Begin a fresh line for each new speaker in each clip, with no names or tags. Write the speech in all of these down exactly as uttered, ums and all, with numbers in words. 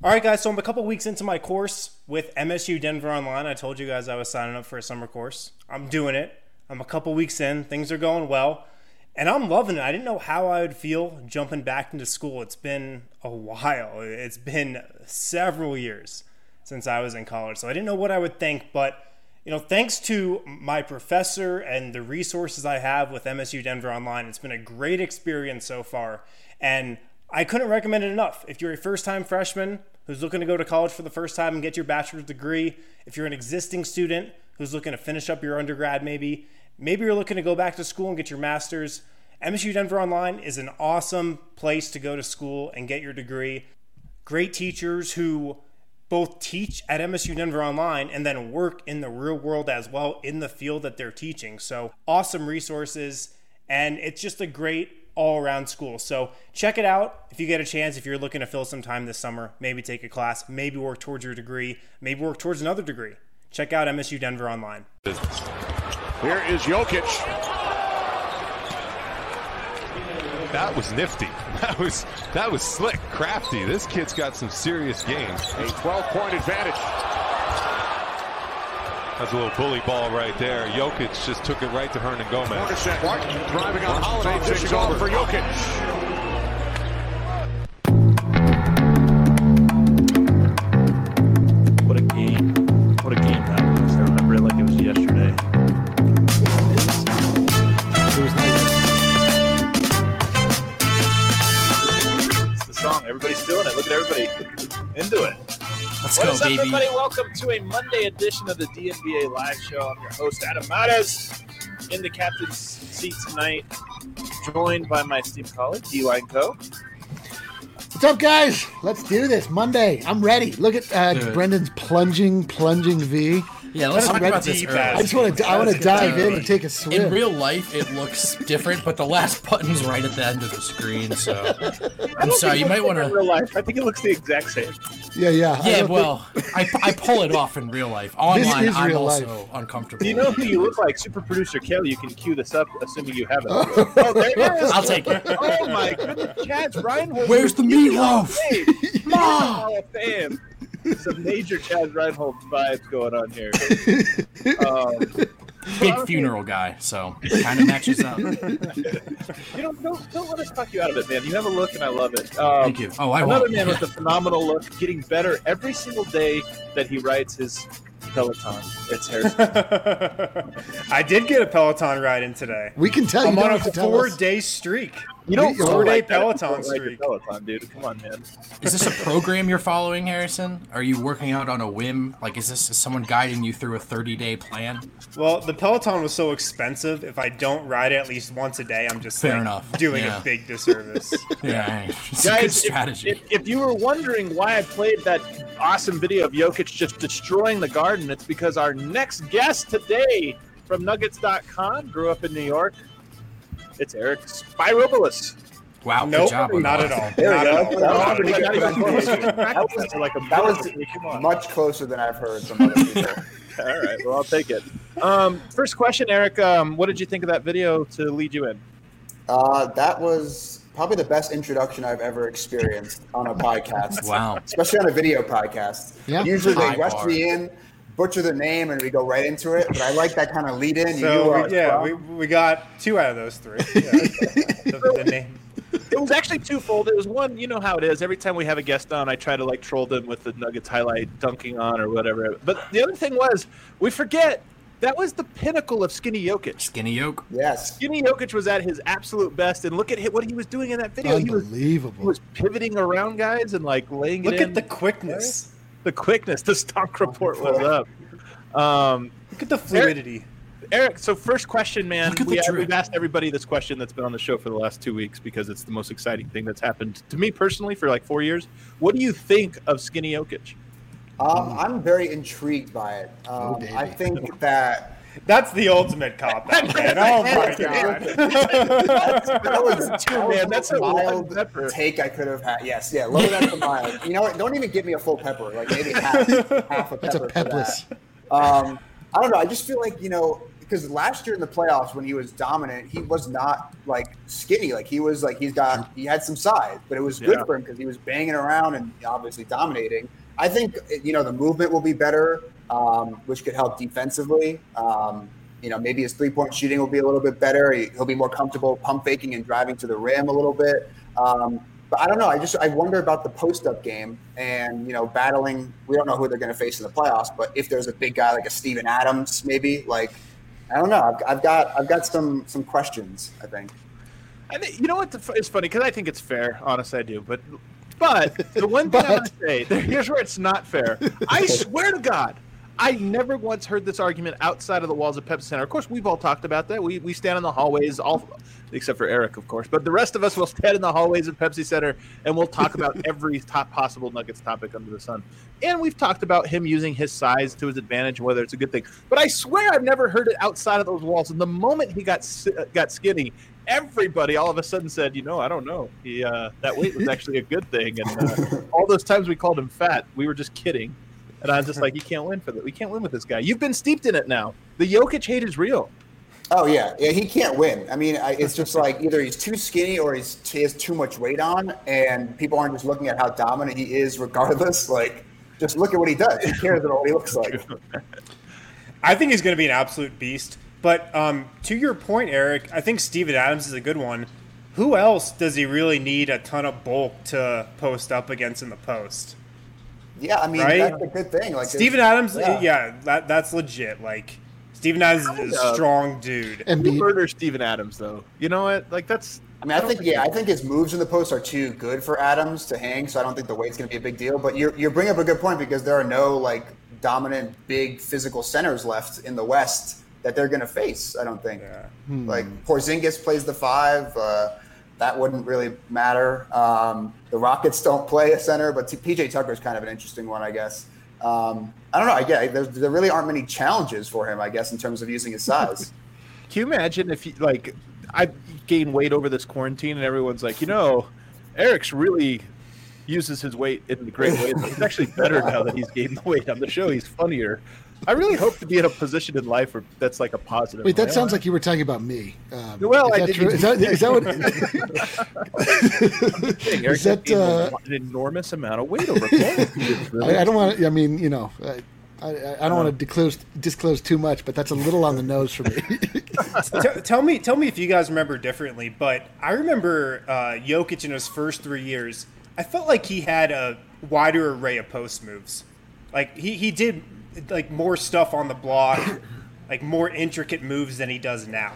All right, guys, so I'm a couple weeks into my course with M S U Denver Online. I told you guys I was signing up for a summer course. I'm doing it. I'm a couple weeks in. Things are going well, and I'm loving it. I didn't know how I would feel jumping back into school. It's been a while. It's been several years since I was in college, so I didn't know what I would think, but you know, thanks to my professor and the resources I have with M S U Denver Online, it's been a great experience so far, and I couldn't recommend it enough. If you're a first-time freshman who's looking to go to college for the first time and get your bachelor's degree, if you're an existing student who's looking to finish up your undergrad maybe, maybe you're looking to go back to school and get your master's, M S U Denver Online is an awesome place to go to school and get your degree. Great teachers who both teach at M S U Denver Online and then work in the real world as well in the field that they're teaching. So awesome resources, and it's just a great all-around school. So check it out if you get a chance, if you're looking to fill some time this summer, maybe take a class, maybe work towards your degree, maybe work towards another degree. Check out M S U Denver Online.
Here is Jokic.
That was nifty. That was that was slick, crafty. This kid's got some serious game.
A twelve-point advantage.
That's a little bully ball right there. Jokic just took it right to Hernan Gomez.
Martin driving on Holiday, dishing off for Jokic.
What a game. What a game that was. I remember it like it was yesterday. It was nice. It's the song. Everybody's feeling it. Look at everybody into it.
Let's
what
go,
is up,
baby.
everybody? Welcome to a Monday edition of the D N B A Live Show. I'm your host, Adam Mares, in the captain's seat tonight, joined by my esteemed colleague, D-Line Co.
What's up, guys? Let's do this. Monday. I'm ready. Look at uh, Brendan's plunging, plunging V.
Yeah, let's talk about this early.
I just want to. I want to dive in and take a swim.
In real life, it looks different, but the last button's right at the end of the screen. So I'm sorry. You might want to.
In real life, I think it looks the exact same.
Yeah, yeah.
Yeah, well, I, I pull it off in real life. Online,
is
I'm
real
also
life.
uncomfortable.
Do you know who you look like? Super producer Kelly. You can cue this up, assuming you have it. Oh, there it is.
I'll take it.
Oh my goodness, Chad's Reinhold.
Where's the meatloaf?
Mom. Hall of Fame. Some major Chad Reinhold vibes going on here. Um,
Big funeral guy, so it kind of matches up.
You know, don't, don't let us talk you out of it, man. You have a look, and I love it. Um,
Thank you. Oh, I
another
won't.
man with a phenomenal look, getting better every single day that he writes his Peloton. It's Harrison.
I did get a Peloton ride in today.
We can tell you.
I'm
don't
on a
have to tell us.
four-day streak.
You don't
We-
four-day
like that.
Peloton
You don't like
streak.
your Peloton, dude. Come on, man.
Is this a program you're following, Harrison? Are you working out on a whim? Like, is this is someone guiding you through a thirty-day plan?
Well, the Peloton was so expensive. If I don't ride it at least once a day, I'm just
Fair
like,
enough.
doing
Yeah.
a big disservice.
Yeah, it's a good
Guys, if,
strategy.
if, if you were wondering why I played that awesome video of Jokic just destroying the Garden, it's because our next guest today from Nuggets dot com grew up in New York. It's Eric Spyropoulous.
Wow,
Nope,
good job. on
not
that.
at all.
There
Not
we
at
go.
all.
That was
Not
pretty
at
good
all.
pronunciation. That was,
Like a
that was
Come on.
much closer than I've heard from other people.
All right, well, I'll take it. Um, first question, Eric. Um, what did you think of that video to lead you in?
Uh, that was probably the best introduction I've ever experienced on a podcast.
Wow.
Especially on a video podcast.
Yeah.
Usually they
High
rush
bar.
me in, butcher the name, and we go right into it. But I like that kind of lead in. You knew
So,
where I
we,
was
yeah,
from.
we, we got two out of those three. Yeah. the, the name.
It was actually twofold. It was one, you know how it is. Every time we have a guest on, I try to like troll them with the Nuggets highlight dunking on or whatever. But the other thing was, we forget that was the pinnacle of Skinny Jokic.
Skinny yoke.
Yes.
Skinny Jokic was at his absolute best, and look at what he was doing in that video. He was, he
Unbelievable.
was pivoting around guys and like laying
Look
it in.
at the quickness.
the quickness. The stock report was up. Um,
Look at the fluidity.
Eric, so first question, man.
Look at
We,
the drip.
we've asked everybody this question that's been on the show for the last two weeks because it's the most exciting thing that's happened to me personally for like four years. What do you think of Skinny Jokic?
Um, I'm very intrigued by it. Um,
baby.
I think that
That's the ultimate cop out, man. Oh my god.
that was
True, man. That's a
wild
pepper.
take I could have had. Yes, yeah, lower that to mild. You know what? Don't even give me a full pepper. Like maybe half, half a pepper.
That's a
for
pepless.
that. Um, I don't know. I just feel like, you know, because last year in the playoffs when he was dominant, he was not like skinny. Like he was like he's got he had some size, but it was good
Yeah.
for him because he was banging around and obviously dominating. I think you know the movement will be better, um, which could help defensively. Um, you know, maybe his three-point shooting will be a little bit better. He, he'll be more comfortable pump faking and driving to the rim a little bit. Um, but I don't know. I just I wonder about the post-up game and you know battling. We don't know who they're going to face in the playoffs, but if there's a big guy like a Steven Adams, maybe like I don't know. I've, I've got I've got some some questions. I think.
I think, you know what? It's funny because I think it's fair. Honestly, I do. But but the one thing I'm going to say, here's where it's not fair. I swear to God, I never once heard this argument outside of the walls of Pepsi Center. Of course, we've all talked about that. We we stand in the hallways, all except for Eric, of course. But the rest of us will stand in the hallways of Pepsi Center, and we'll talk about every top possible Nuggets topic under the sun. And we've talked about him using his size to his advantage, whether it's a good thing. But I swear I've never heard it outside of those walls. And the moment he got got skinny, everybody all of a sudden said, you know, I don't know. He uh, that weight was actually a good thing. And uh, all those times we called him fat, we were just kidding. And I was just like, you can't win for that. We can't win with this guy. You've been steeped in it now. The Jokic hate is real.
Oh yeah, yeah. He can't win. I mean, I, it's just like either he's too skinny or he's he has too much weight on, and people aren't just looking at how dominant he is, regardless. Like, just look at what he does. Who cares about what he looks like?
I think he's going to be an absolute beast. But um, to your point, Eric, I think Steven Adams is a good one. Who else does he really need a ton of bulk to post up against in the post?
Yeah, I mean,
Right?
that's a good thing. Like
Steven Adams,
yeah.
yeah, that, that's legit. Like, Steven Adams is a strong dude.
And
Who
be,
murder Steven Adams, though? You know what? Like, that's...
I mean, I think yeah, I think his moves in the post are too good for Adams to hang, so I don't think the weight's going to be a big deal. But you're you're bringing up a good point because there are no like dominant big physical centers left in the West that they're going to face. I don't think.
Yeah.
Hmm.
Like Porzingis plays the five, uh, that wouldn't really matter. Um, the Rockets don't play a center, but P J Tucker's kind of an interesting one, I guess. Um, I don't know. I get there, there really aren't many challenges for him, I guess, in terms of using his size.
Can you imagine if, you, like, I gained weight over this quarantine and everyone's like, you know, Eric's really uses his weight in a great way. He's actually better now that he's gained the weight on the show. He's funnier. I really hope to be in a position in life where that's like a positive.
wait, that
way.
sounds like you were talking about me. Um,
Well,
is
I
that
didn't-
true? Is that, is that what?
Thing. Eric
is that,
gained
uh,
an enormous amount of weight over quarantine.
I, I don't want. I mean, you know, I, I, I don't want to disclose disclose too much, but that's a little on the nose for me.
T- tell me, tell me if you guys remember differently. But I remember uh, Jokic in his first three years. I felt like he had a wider array of post moves. Like he, he did like more stuff on the block, like more intricate moves than he does now.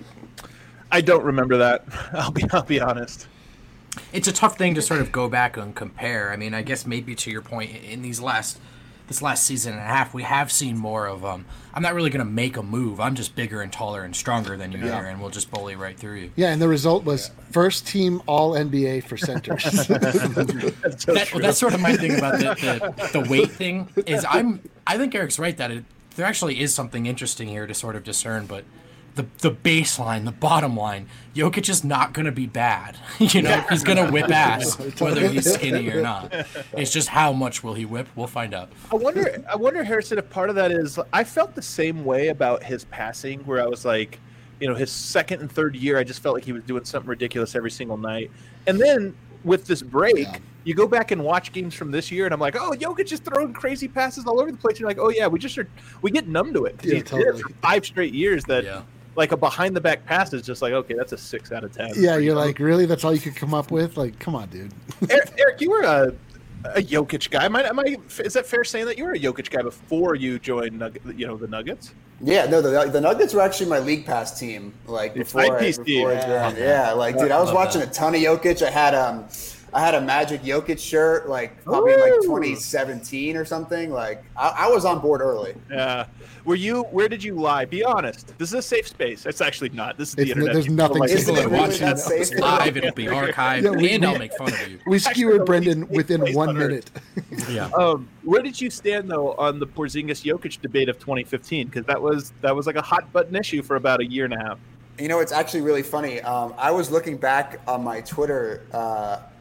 I don't remember that. I'll be I'll be honest.
It's a tough thing to sort of go back and compare. I mean, I guess maybe to your point, in these last this last season and a half, we have seen more of um. I'm not really going to make a move. I'm just bigger and taller and stronger than you
Yeah.
are, and we'll just bully right through you.
Yeah, and the result was first team All N B A for centers.
That's so
That,
true.
that's sort of my thing about the, the, the weight thing. Is I'm I think Eric's right that it, there actually is something interesting here to sort of discern, but. The, the baseline, the bottom line, Jokic is not going to be bad. You know, he's going to whip ass, whether he's skinny or not. It's just how much will he whip? We'll find out.
I wonder, I wonder, Harrison, if part of that is I felt the same way about his passing, where I was like, you know, his second and third year, I just felt like he was doing something ridiculous every single night. And then with this break,
Yeah.
you go back and watch games from this year, and I'm like, oh, Jokic is throwing crazy passes all over the place. And you're like, oh yeah, we just are, we get numb to it because
Yeah,
he's did
totally.
it for five straight years that.
Yeah.
Like a behind the back pass is just like, okay, that's a six out of ten.
Yeah, you're like, really? That's all you could come up with? Like, come on, dude.
Eric, Eric, you were a, a Jokic guy. Am I, am I, is that fair saying that you were a Jokic guy before you joined, Nugget, you know, the Nuggets?
Yeah, no, the, the Nuggets were actually my league pass team. Like
Your
before, I,
five-piece
before
team.
I joined. Yeah, like dude, I was
Love
watching
that.
a ton of Jokic. I had um, I had a Magic Jokic shirt, like probably in like
Ooh.
twenty seventeen or something. Like I, I was on board early.
Yeah. Were you? Where did you lie? Be honest. This is a safe space. It's actually not. This is the
It's-
internet.
there's
People
nothing
like-
safe
Isn't
about
it
it.
really
Watching
that
it.
safe?
It's live, it'll be archived,
Yeah, we-
and I'll make fun of you.
We
Actually,
skewered
the
Brendan
least
within
place
one
on earth.
minute.
Yeah.
Um, where did you stand though on the Porzingis Jokic debate of twenty fifteen? Because that was that was like a hot button issue for about a year and a half.
You know, it's actually really funny. Um, I was looking back on my Twitter uh,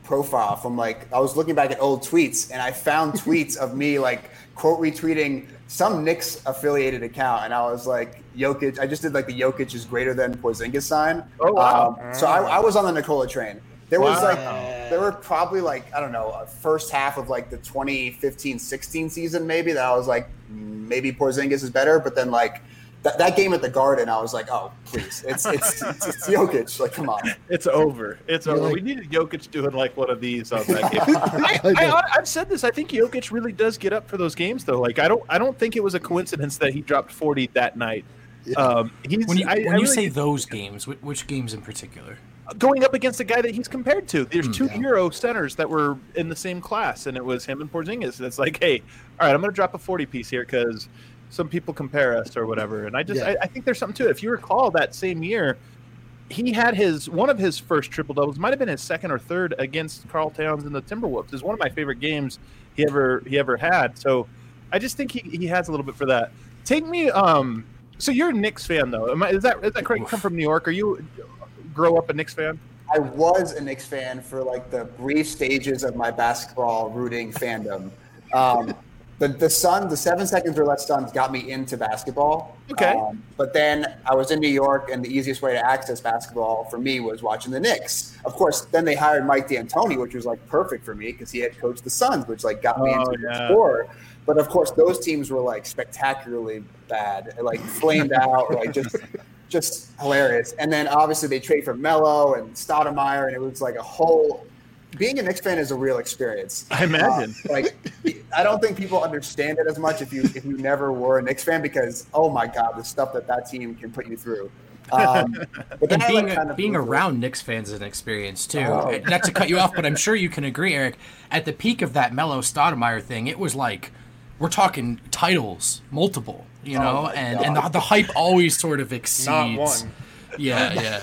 profile from like I was looking back at old tweets, and I found tweets of me like quote retweeting some Knicks affiliated account, and I was like, Jokic. I just did like the Jokic is greater than Porzingis sign.
Oh wow!
Um, so I, I was on the Nikola train. There was
Wow.
like there were probably like I don't know a first half of like the twenty fifteen sixteen season maybe that I was like maybe Porzingis is better, but then like that, that game at the Garden I was like, oh please, it's it's it's, it's Jokic, like come on.
It's over. It's
You're
over.
like-
we needed Jokic doing like one of these on that game. I, I, I've said this. I think Jokic really does get up for those games, though. Like I don't, I don't think it was a coincidence that he dropped forty that night. Um, he's
When you,
I,
when
I
you
really-
say those games, which, which games in particular?
going up against a guy that he's compared to. There's two
yeah.
Euro centers that were in the same class, and it was him and Porzingis. And it's like, hey, all right, I'm going to drop a forty piece here because some people compare us or whatever. And I just,
Yeah.
I, I think there's something to it. If you recall that same year, he had his one of his first triple doubles, might have been his second or third against Karl Towns and the Timberwolves. It's one of my favorite games he ever he ever had. So I just think he, he has a little bit for that. Take me. Um, so you're a Knicks fan though. Am I, is that is that correct? You come from New York. Are you grow up a Knicks fan?
I was a Knicks fan for like the brief stages of my basketball rooting fandom. Um, the the Suns, the seven seconds or less Suns got me into basketball.
Okay.
Um, but then I was in New York, and the easiest way to access basketball for me was watching the Knicks. Of course, then they hired Mike D'Antoni, which was like perfect for me because he had coached the Suns, which like got me
Oh,
into
yeah.
the sport. But of course, those teams were like spectacularly bad, like flamed out, like just. Just hilarious. And then obviously they trade for Melo and Stoudemire, and it was like a whole. Being a Knicks fan is a real experience.
I imagine.
Uh, like, I don't think people understand it as much if you if you never were a Knicks fan because oh my god, the stuff that that team can put you through. Um, but then
And
I,
being
like, kind of
being
moved
around Knicks fans is an experience too.
Oh.
Not to cut you off, but I'm sure you can agree, Eric. At the peak of that Melo Stoudemire thing, it was like we're talking titles, multiple, you know,
my
and
God.
and the, the hype always sort of exceeds.
Not one.
Yeah, yeah.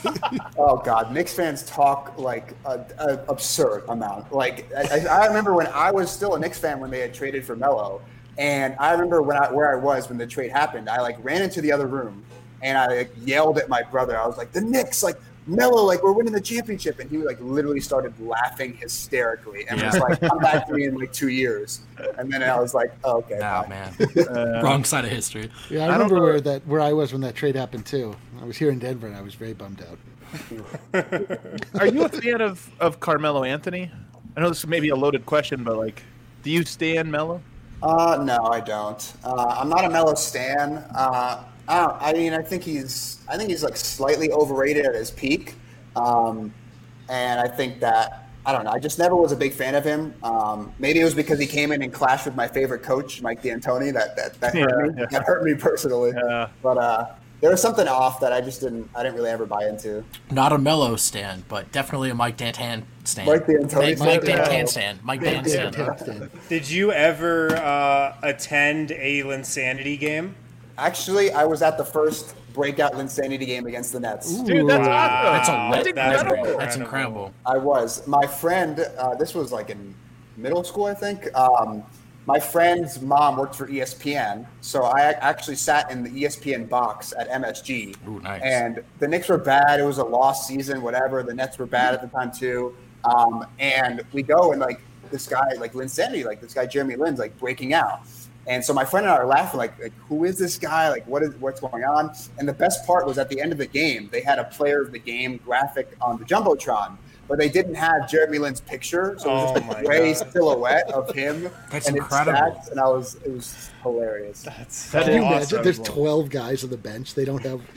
Oh God, Knicks fans talk like a, a absurd amount. Like I, I remember when I was still a Knicks fan when they had traded for Melo, and I remember when I where I was when the trade happened. I like ran into the other room and I like, yelled at my brother. I was like, "The Knicks, like Melo, like we're winning the championship," and he like literally started laughing hysterically and was
Yeah.
like, "Come back to me in like two years." And then I was like, oh, "Okay,
Oh
fine."
man, wrong side of history.
Yeah, I,
I don't
remember
know.
where that where I was when that trade happened too. I was here in Denver, and I was very bummed out.
Are you a fan of, of Carmelo Anthony? I know this may be a loaded question, but like, do you stand Melo?
Uh, no, I don't. Uh, I'm not a Melo stan. Uh, I, don't, I mean, I think he's, I think he's like slightly overrated at his peak, um, and I think that I don't know. I just never was a big fan of him. Um, maybe it was because he came in and clashed with my favorite coach, Mike D'Antoni. That that that hurt
Yeah,
me.
yeah.
That hurt me personally.
Yeah.
But uh, there was something off that I just didn't. I didn't really ever buy into.
Not a Melo stand, but definitely a Mike D'Antan stand.
Mike D'Antoni
Mike, Mike
stand, yeah.
D'Antan stand. Mike
Yeah,
D'Antan
yeah,
stand.
yeah.
Did you ever uh, attend a Linsanity game?
Actually, I was at the first breakout Linsanity game against the Nets.
Dude, that's
Wow.
awesome.
That's a
That's
lit.
That's
incredible.
That's
incredible.
incredible.
I was. My friend, uh, this was like in middle school, I think. Um, my friend's mom worked for E S P N, so I ac- actually sat in the E S P N box at M S G.
Ooh, nice.
And the Knicks were bad. It was a lost season, whatever. The Nets were bad at the time too. Um, and we go and like this guy, like Linsanity, like this guy Jeremy Lin's like breaking out. And so my friend and I are laughing, like, like, who is this guy? Like, what is what's going on? And the best part was at the end of the game, they had a player of the game graphic on the Jumbotron, but they didn't have Jeremy Lin's picture. So it was
Oh
just
my
a gray
God.
silhouette of him.
That's
and his
incredible.
stats, and I was, it was hilarious.
That's
That
Can you
is
imagine?
awesome.
There's twelve guys on the bench. They don't have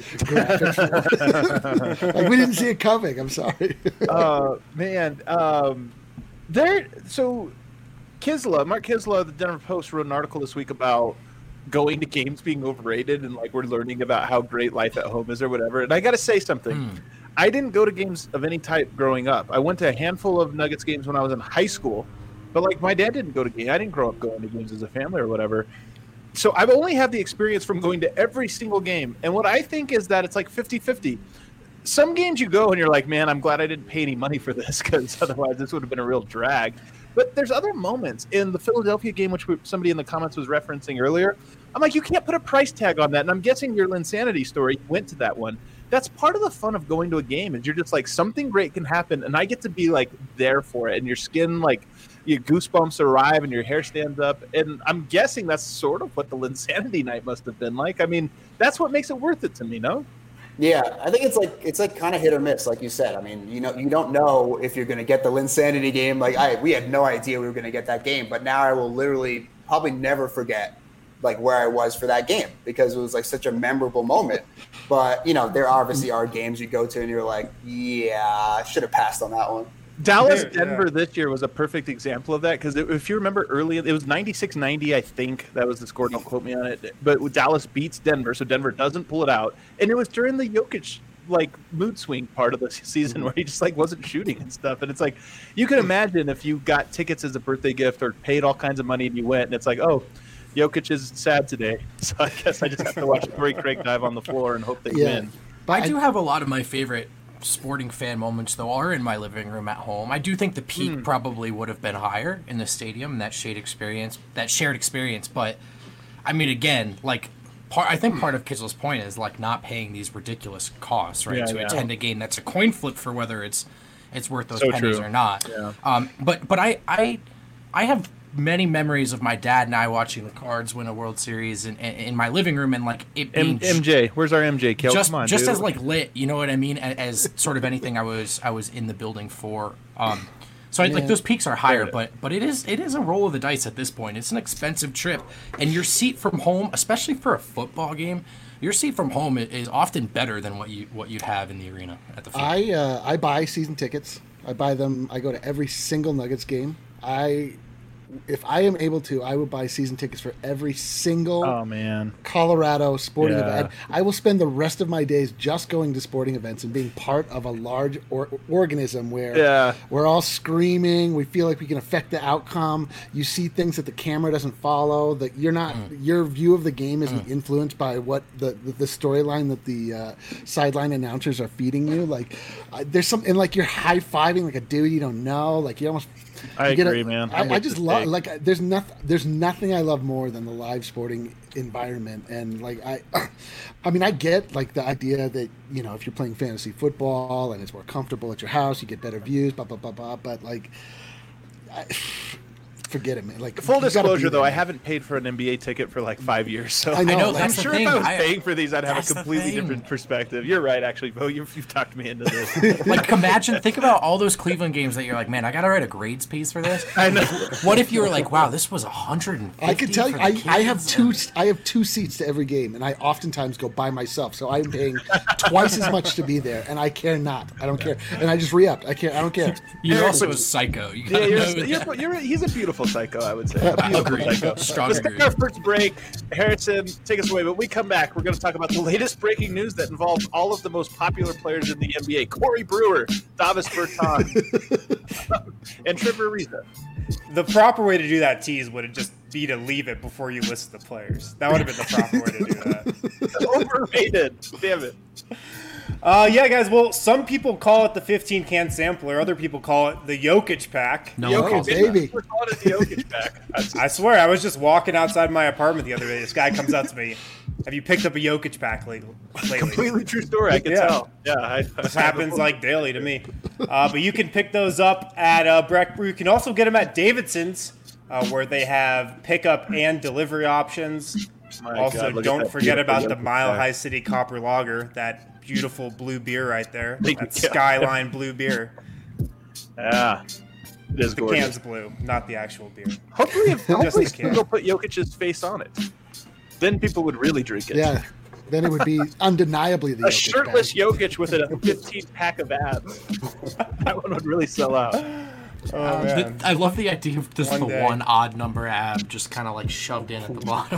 graphics. for it. Like we didn't see it coming. I'm sorry.
uh, man, um, there. So, Kisla, Mark Kisla, the Denver Post wrote an article this week about going to games being overrated, and like we're learning about how great life at home is or whatever. And I got to say something.
Hmm.
I didn't go to games of any type growing up. I went to a handful of Nuggets games when I was in high school, but like my dad didn't go to games. I didn't grow up going to games as a family or whatever. So I've only had the experience from going to every single game. And what I think is that it's like fifty-fifty. Some games you go and you're like, man, I'm glad I didn't pay any money for this because otherwise this would have been a real drag. But there's other moments in the Philadelphia game, which we, somebody in the comments was referencing earlier. I'm like, you can't put a price tag on that. And I'm guessing your Linsanity story went to that one. that's part of the fun of going to a game. Is you're just like something great can happen, and I get to be like there for it, and your skin like your goosebumps arrive, and your hair stands up. And I'm guessing that's sort of what the Linsanity night must have been like. I mean, that's what makes it worth it to me. No.
Yeah, I think it's like it's like kind of hit or miss, like you said. I mean, you know, you don't know if you're going to get the Linsanity game. Like I, we had no idea we were going to get that game, but now I will literally probably never forget like where I was for that game because it was like such a memorable moment. But you know, there obviously are games you go to and you're like, yeah, I should have passed on that one.
Dallas
There,
Denver
yeah.
this year was a perfect example of that because if you remember early, it was ninety-six ninety, I think that was the score. Don't quote me on it. But Dallas beats Denver, so Denver doesn't pull it out, and it was during the Jokic like mood swing part of the season where he just like wasn't shooting and stuff. And it's like you can imagine if you got tickets as a birthday gift or paid all kinds of money and you went, and it's like, oh, Jokic is sad today, so I guess I just have to watch Torrey Craig dive on the floor and hope they
Yeah.
win.
But
I do have a lot of my favorite sporting fan moments, though, are in my living room at home. I do think the peak
Hmm.
probably would have been higher in the stadium, that shared experience, that shared experience. But I mean, again, like, part, I think part of Kitzel's point is like not paying these ridiculous costs, right,
Yeah,
to
yeah.
attend a game that's a coin flip for whether it's it's worth those
So
pennies
true.
or not.
Yeah.
Um, but but I I I have many memories of my dad and I watching the Cards win a World Series in, in, in my living room and like it being
M- MJ, where's our M J? Kel?
just
Come on,
just
dude.
as like lit, you know what I mean, as, as sort of anything I was I was in the building for. Um, so I, like
Yeah.
those peaks are higher,
Fair.
but but it is it is a roll of the dice at this point. It's an expensive trip, and your seat from home, especially for a football game, your seat from home i- is often better than what you what you'd have in the arena at the field.
I uh, I buy season tickets. I buy them. I go to every single Nuggets game. I, if I am able to, I will buy season tickets for every single
Oh man.
Colorado sporting
Yeah.
event. I will spend the rest of my days just going to sporting events and being part of a large or- organism where
Yeah.
we're all screaming. We feel like we can affect the outcome. You see things that the camera doesn't follow. That you're not. Your view of the game isn't influenced by what the the, the storyline that the uh, sideline announcers are feeding you. Like uh, there's some and like you're high fiving like a dude you don't know. Like you almost.
I
you get
agree,
a-
man. I'm
I, I
with
just
this
love
take.
like there's nothing there's nothing I love more than the live sporting environment. And like I I mean I get like the idea that, you know, if you're playing fantasy football and it's more comfortable at your house, you get better views, blah blah blah blah. But like I, forget it, man. Like
Full
you gotta
disclosure,
be
though,
there.
I haven't paid for an N B A ticket for like five years, so
I know,
I know,
like-
I'm
that's the
sure
thing.
if I was
I-
paying for these, I'd have
that's
a
the
completely
thing.
different perspective. You're right, actually, Bo. You've, you've talked me into this.
Like, imagine, think about all those Cleveland games that you're like, man, I gotta write a grades piece for this.
I know.
What if you were like, wow, this was one hundred fifty?
I can tell you,
for
I,
the
I have
kids,
two
and-
I have two seats to every game, and I oftentimes go by myself. So I'm paying twice as much to be there, and I care not. I don't care, and I just re-upped. I care. I don't care.
You're also a psycho. You
Yeah,
gotta
you're,
know
you're,
that.
you're, he's a beautiful psycho, I would say. A beautiful
Agreed.
psycho.
Strong
Let's
agree.
take our first break. Harrison, take us away. But when we come back, we're going to talk about the latest breaking news that involves all of the most popular players in the N B A: Corey Brewer, Davis Bertans, and Trevor Ariza.
The proper way to do that tease would have just be to leave it before you list the players. That would have been the proper way to do that.
Overrated. Damn it.
Uh, yeah, guys. Well, some people call it the fifteen can sampler. Other people call it the Jokic pack.
No one
Jokic,
calls it
baby.
that.
We're calling it the Jokic back.
I swear, I was just walking outside my apartment the other day. This guy comes up to me. Have you picked up a Jokic pack lately? lately?
Completely true story. I can
Yeah.
tell. Yeah, I,
This happens like daily to me. Uh, but you can pick those up at uh, Breck Brew. You can also get them at Davidson's, uh, where they have pickup and delivery options.
My
Also,
God, look at
don't
that
forget
beautiful
about the
Jokic
Mile
pack.
High City Copper Lager, that beautiful blue beer right there.
Thank
That
you.
Skyline blue beer.
Yeah, it is
The
gorgeous.
can's blue, not the actual beer.
Hopefully, if, hopefully
the can.
they'll put Jokic's face on it. Then people would really drink it.
Yeah, then it would be undeniably the
A
Jokic
shirtless
bag.
Jokic with a fifteen pack of abs. That one would really sell out.
Oh,
Um,
man.
the- I love the idea of just
One
the
day.
one odd number ab just kind of like shoved in at the bottom.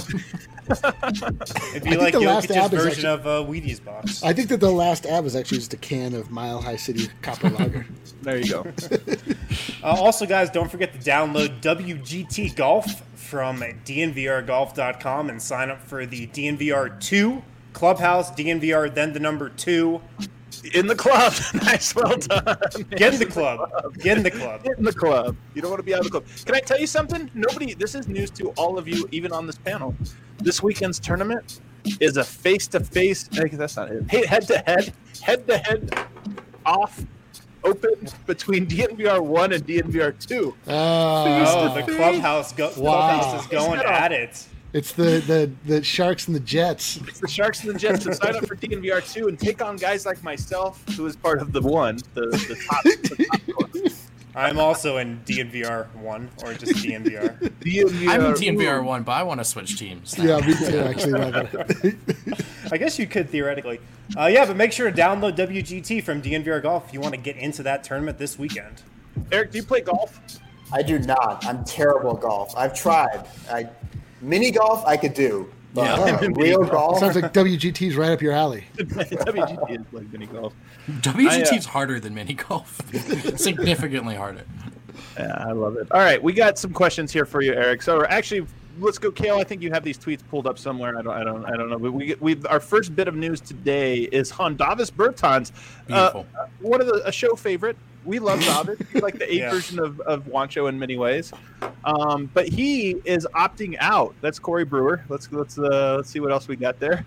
It'd be
think
like
the last
Jokic's
ab is
version
actually-
of uh, Wheaties box.
I think that the last ab was actually just a can of Mile High City Copper Lager.
There you go.
Uh, also, guys, don't forget to download W G T Golf from D N V R golf dot com and sign up for the D N V R two Clubhouse. D N V R, then the number two.
In the club. Nice, well done.
Get in the club. Get in the club.
Get in the club. You don't want to be out of the club. Can I tell you something? Nobody. This is news to all of you, even on this panel. This weekend's tournament, is a face-to-face. That's not it. Head-to-head, head-to-head, off, open between D N V R one and D N V R two.
Uh,
Oh, the clubhouse, go-
Wow.
clubhouse is going at it.
it's the, the, the Sharks and the Jets.
It's the Sharks and the Jets to sign up for D N V R two and take on guys like myself, who is part of the one, the, the top. The top one.
I'm also in D N V R one or just D N V R.
D N V R,
I'm in D N V R one, but I want to switch teams.
Yeah, me too, actually. Robert.
I guess you could theoretically. Uh, yeah, but make sure to download W G T from D N V R Golf if you want to get into that tournament this weekend.
Eric, do you play golf?
I do not. I'm terrible at golf. I've tried. I mini golf I could do, but
Yeah.
real golf.
Sounds like W G T's right up your alley.
W G T is like mini golf.
W G T's
I, uh,
harder than mini golf. Significantly harder.
Yeah, I love it. All right, we got some questions here for you, Eric. So actually, let's go, Kale. I think you have these tweets pulled up somewhere. I don't, I don't, I don't know. But we, we, our first bit of news today is on Davis Bertans,
Beautiful.
uh, one of the a show favorite. We love Davis. He's like the eight
Yeah.
version of, of Juancho in many ways. Um, but he is opting out. That's Corey Brewer. Let's let's uh, let's see what else we got there.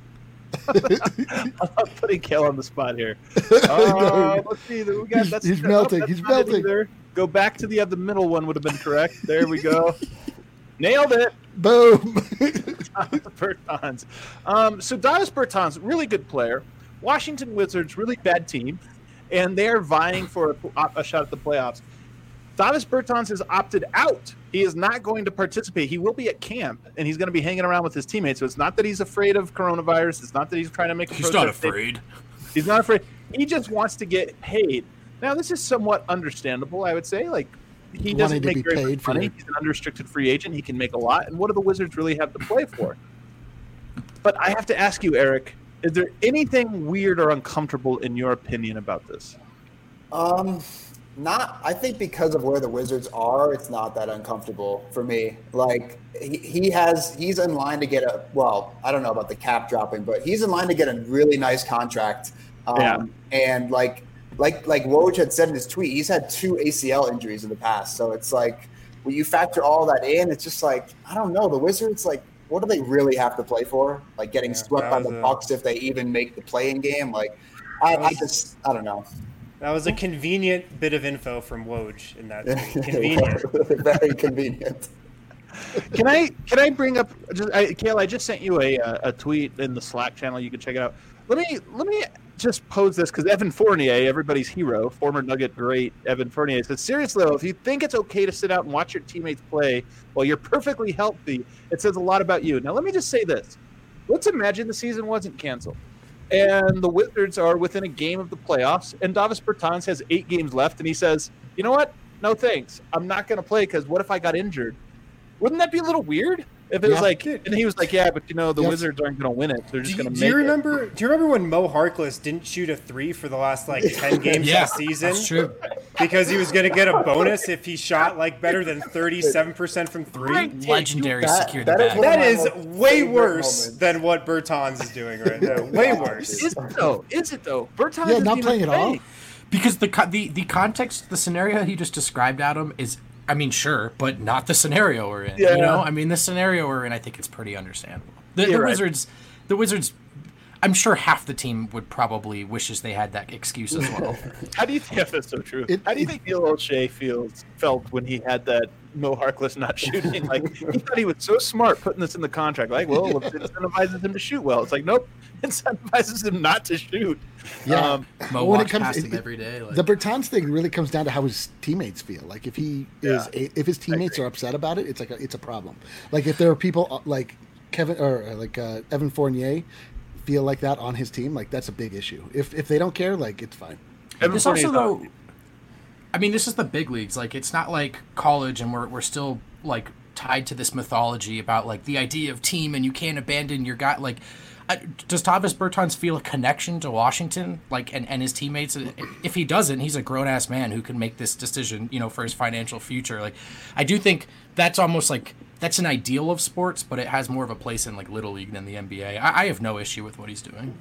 I'm putting Kale on the spot here. Uh, let's see. We got, that's,
He's
oh,
melting.
that's
He's
not it
melting.
either. Go back to the other middle one would have been correct. There we go. Nailed it.
Boom.
Bertans. Um, so Davis Bertans, really good player. Washington Wizards, really bad team, and they are vying for a, a shot at the playoffs. Davis Bertans has opted out. He is not going to participate. He will be at camp, and he's going to be hanging around with his teammates. So it's not that he's afraid of coronavirus. It's not that he's trying to make a
He's not
protest.
afraid.
He's not afraid. He just wants to get paid. Now, this is somewhat understandable, I would say. Like, he doesn't
Wanting to
make
be
very
paid
much
for
money.
it.
He's an unrestricted free agent. He can make a lot. And what do the Wizards really have to play for? But I have to ask you, Eric, is there anything weird or uncomfortable in your opinion about this?
Um, not. I think because of where the Wizards are, it's not that uncomfortable for me. Like he, he has, he's in line to get a. Well, I don't know about the cap dropping, but he's in line to get a really nice contract. Um,
Yeah.
And like, like, like Woj had said in his tweet, he's had two A C L injuries in the past. So it's like when you factor all that in, it's just like I don't know. The Wizards, like, what do they really have to play for? Like getting
Yeah,
swept
that
by
was
the
a-
Bucks if they even make the play-in game. Like, I, I just, I don't know.
That was a convenient bit of info from Woj in that tweet. Convenient.
Very convenient.
Can I can I bring up just I, Kale? I just sent you a a tweet in the Slack channel. You can check it out. Let me let me just pose this because Evan Fournier, everybody's hero, former Nugget great Evan Fournier says, seriously, though, if you think it's okay to sit out and watch your teammates play while you're perfectly healthy, it says a lot about you. Now, let me just say this: let's imagine the season wasn't canceled, and the Wizards are within a game of the playoffs, and Davis Bertans has eight games left, and he says, you know what? No thanks. I'm not going to play because what if I got injured? Wouldn't that be a little weird? If it was
Yeah.
like, and he was like, yeah, but you know, the
Yes.
Wizards aren't going to win it. They're just
Do you,
going to
do
make
you
it.
remember? Do you remember when Mo Harkless didn't shoot a three for the last like ten games
Yeah,
this season?
that's true.
Because he was going to get a bonus if he shot like better than thirty-seven percent from three.
Right.
Legendary
That-
secure the
that is
bag.
one of
That
my
is
most
way
favorite
worse
moments.
than what Bertans is doing right now. Way worse.
Is it though? Is it though? Bertans
Yeah,
isn't
not
even
playing at all.
playing.
Because the co- the the context, the scenario he just described, Adam, is, I mean, sure, but not the scenario we're in.
Yeah.
You know, I mean, the scenario we're in, I think it's pretty understandable. The, the
You're right.
Wizards, the Wizards, I'm sure half the team would probably wishes they had that excuse as well.
How do you think that's so true?
It-
How do you
it-
think Neil O'Shea feels felt when he had that Mo Harkless not shooting? Like he thought he was so smart putting this in the contract. Like, well, it incentivizes him to shoot well. It's like, nope, incentivizes him not to shoot.
Yeah.
Um,
Mo
When it
walks
comes-
past
it-
him
it-
every day. Like,
The Bertans thing really comes down to how his teammates feel. Like if he is,
Yeah.
if his teammates are upset about it, it's like a, it's a problem. Like if there are people uh, like Kevin or uh, like uh, Evan Fournier feel like that on his team, like that's a big issue. If if they don't care, like it's fine.
Evan
this
Fournier's
also
not-
though, I mean, this is the big leagues. Like, it's not like college, and we're we're still like tied to this mythology about like the idea of team, and you can't abandon your guy. Like, uh, does Davis Bertans feel a connection to Washington, like, and, and his teammates? If he doesn't, he's a grown ass man who can make this decision, you know, for his financial future. Like, I do think that's almost like that's an ideal of sports, but it has more of a place in like Little League than the N B A. I, I have no issue with what he's doing.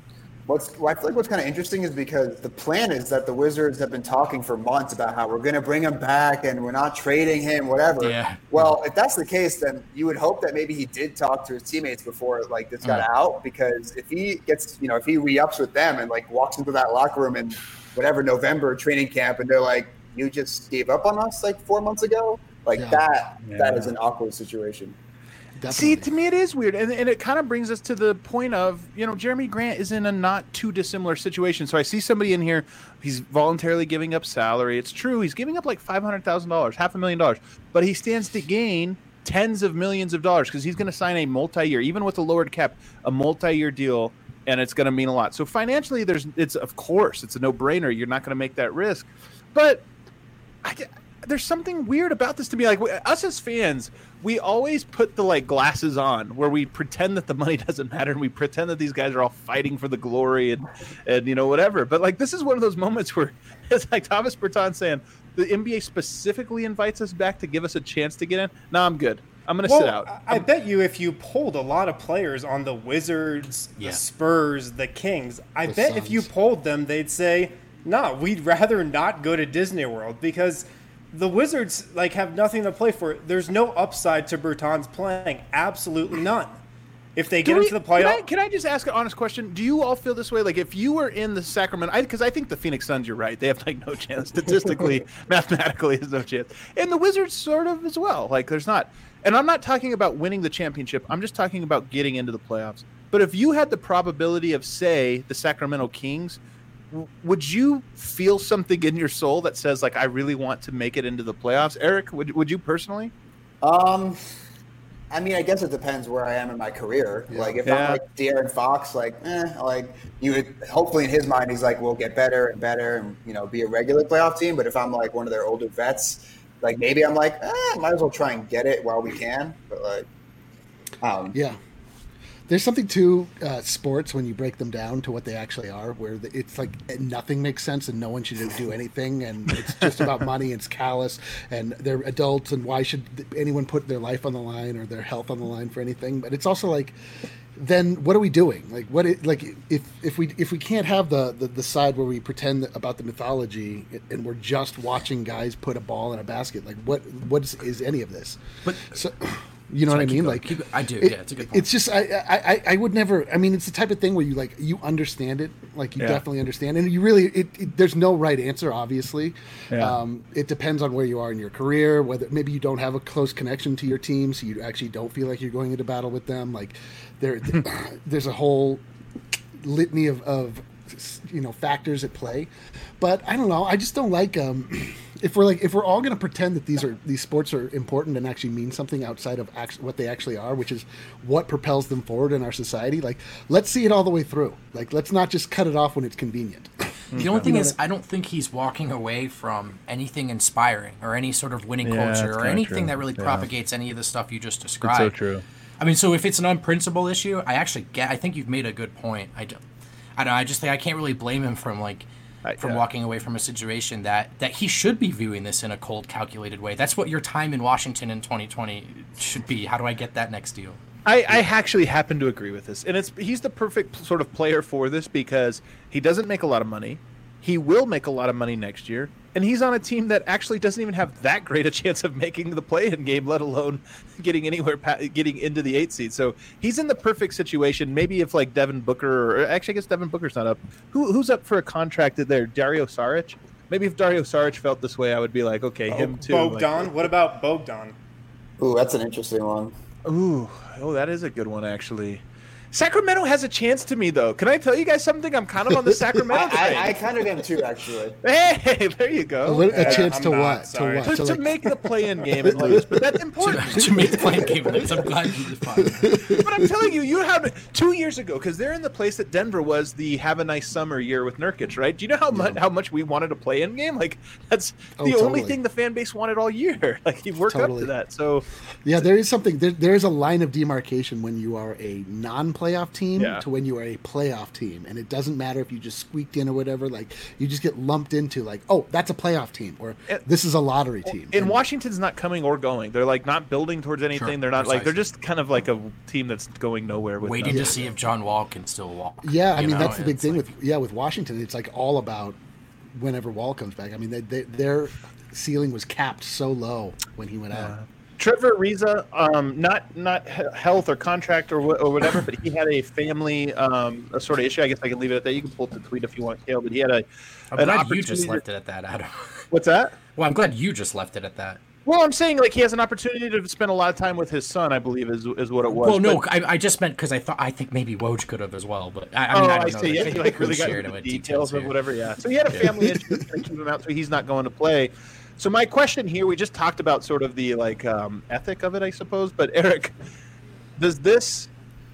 What's I feel like what's kind of interesting is because the plan is that the Wizards have been talking for months about how we're going to bring him back and we're not trading him, whatever.
Yeah.
Well, if that's the case, then you would hope that maybe he did talk to his teammates before like this got
Mm.
out, because if he gets, you know, if he re-ups with them and like walks into that locker room in whatever November training camp and they're like, you just gave up on us like four months ago, like
Yeah.
that, that
Yeah.
is an awkward situation.
Definitely.
See, to me, it is weird, and, and it kind of brings us to the point of, you know, Jeremy Grant is in a not too dissimilar situation. So I see somebody in here, he's voluntarily giving up salary. It's true, he's giving up like five hundred thousand dollars, half a million dollars, but he stands to gain tens of millions of dollars because he's going to sign a multi-year, even with a lowered cap, a multi-year deal, and it's going to mean a lot. So financially, there's, it's of course, it's a no-brainer. You're not going to make that risk, but I get. There's something weird about this to me. Like us as fans, we always put the like glasses on where we pretend that the money doesn't matter and we pretend that these guys are all fighting for the glory and, and you know, whatever. But like, this is one of those moments where it's like Thomas Berton saying the N B A specifically invites us back to give us a chance to get in. No, I'm good. I'm going to
Well,
sit out.
I I bet you if you polled a lot of players on the Wizards,
Yeah.
the Spurs, the Kings, I
The
bet if you
Suns.
polled them, they'd say, no, we'd rather not go to Disney World because the Wizards like have nothing to play for. There's no upside to Bertans playing. Absolutely none. If they get
Do we-
into the
Can I,
playoff,
can I just ask an honest question? Do you all feel this way? Like, if you were in the Sacramento, because I, I think the Phoenix Suns, you're right. They have like no chance statistically, mathematically, there's no chance, and the Wizards sort of as well. Like, there's not. And I'm not talking about winning the championship. I'm just talking about getting into the playoffs. But if you had the probability of, say, the Sacramento Kings, w- would you feel something in your soul that says, like, I really want to make it into the playoffs? Eric, would would you personally?
Um, I mean, I guess it depends where I am in my career.
Yeah.
Like, if
Yeah.
I'm like De'Aaron Fox, like, eh, like you would hopefully in his mind, he's like, we'll get better and better and, you know, be a regular playoff team. But if I'm like one of their older vets, like maybe I'm like, eh, might as well try and get it while we can. But like, um,
Yeah. There's something to uh, sports when you break them down to what they actually are, where the, it's like nothing makes sense and no one should do anything, and it's just about money. It's callous, and they're adults, and why should anyone put their life on the line or their health on the line for anything? But it's also like, then what are we doing? Like, what? It, like, if if we if we can't have the, the the side where we pretend about the mythology and we're just watching guys put a ball in a basket, like what what is, is any of this?
But
So, you know
Sorry,
what I
keep
mean?
going.
Like,
Keep- I do,
it-
yeah, it's a good point.
It's just I, I I I would never. I mean, it's the type of thing where you like you understand it, like you
Yeah.
definitely understand, and you really it, it. There's no right answer, obviously.
Yeah.
Um, it depends on where you are in your career, whether maybe you don't have a close connection to your team, so you actually don't feel like you're going into battle with them. Like there, there's a whole litany of, of you know factors at play, but I don't know. I just don't like um, if we're like if we're all going to pretend that these are these sports are important and actually mean something outside of act- what they actually are, which is what propels them forward in our society. Like, let's see it all the way through. Like, let's not just cut it off when it's convenient.
The only thing is, I don't think he's walking away from anything inspiring or any sort of winning
Yeah, that's
culture or
kinda
anything
true.
that really
Yeah.
propagates any of the stuff you just described.
so true.
I mean, so if it's an unprincipled issue, I actually get. I think you've made a good point. I don't. I don't. I just think I can't really blame him from like
I-
from
yeah.
walking away from a situation that that he should be viewing this in a cold, calculated way. That's what your time in Washington in twenty twenty should be. How do I get that next deal?
I, I actually happen to agree with this, and it's he's the perfect sort of player for this because he doesn't make a lot of money. He will make a lot of money next year, and he's on a team that actually doesn't even have that great a chance of making the play-in game, let alone getting anywhere, pa- getting into the eight seed. So he's in the perfect situation. Maybe if like Devin Booker, or actually I guess Devin Booker's not up. Who who's up for a contract there? Dario Saric. Maybe if Dario Saric felt this way, I would be like, okay, him too.
Bogdan.
Like,
What about Bogdan?
ooh, that's an interesting one.
Ooh, oh, that is a good one, actually. Sacramento has a chance to me, though. Can I tell you guys something? I'm kind of on the Sacramento train.
I, I, I kind of am too, actually.
Hey, there you go.
A, li- a
Yeah,
chance
I'm
to
not,
what? To
sorry.
what?
To,
To,
to
like,
make the play-in game and lose, but that's
to,
important.
to make the playing game list. I'm glad you responded.
But I'm telling you, you have two years ago because they're in the place that Denver was the have a nice summer year with Nurkic, right? Do you know how much how much we wanted a play-in game? Like that's
Oh,
the only
totally.
thing the fan base wanted all year. Like you work up
Totally.
to that. So
yeah, there is something. There, there is a line of demarcation when you are a non playoff team
Yeah.
to when you are a playoff team, and it doesn't matter if you just squeaked in or whatever. Like you just get lumped into like, oh, that's a playoff team, or
It-
this is a lottery team.
And
And-
Washington's not coming or going. They're like not building towards anything.
Sure,
they're not like they're
precisely.
just kind of like a team that's going nowhere with
Waiting
them.
to see if John Wall can still walk.
Yeah, I
you
mean
know?
that's the big
It's
thing
like-
with yeah with Washington. It's like all about whenever Wall comes back. I mean, they, they, their ceiling was capped so low when he went out.
Trevor Ariza, um, not not he- health or contract or, wh- or whatever, but he had a family um, a sort of issue. I guess I can leave it at that. You can pull up the tweet if you want, Kale. But he had a
I'm
an
glad you
opportunity.
just
to-
left it at that, Adam.
What's that?
Well, I'm glad you just left it at that.
Well, I'm saying like he has an opportunity to spend a lot of time with his son. I believe is is what it was.
Well, no,
But-
I, I just meant because I thought I think maybe Woj could have as well, but I, I
oh,
mean I
I,
don't know.
see.
that
Yeah,
they-
he like
who
really got
shared
into the
him with
details of
here.
whatever. Yeah. So he had a family issue that's going to keep him out, so he's not going to play. So my question here, we just talked about sort of the like um, ethic of it, I suppose. But Eric, does this,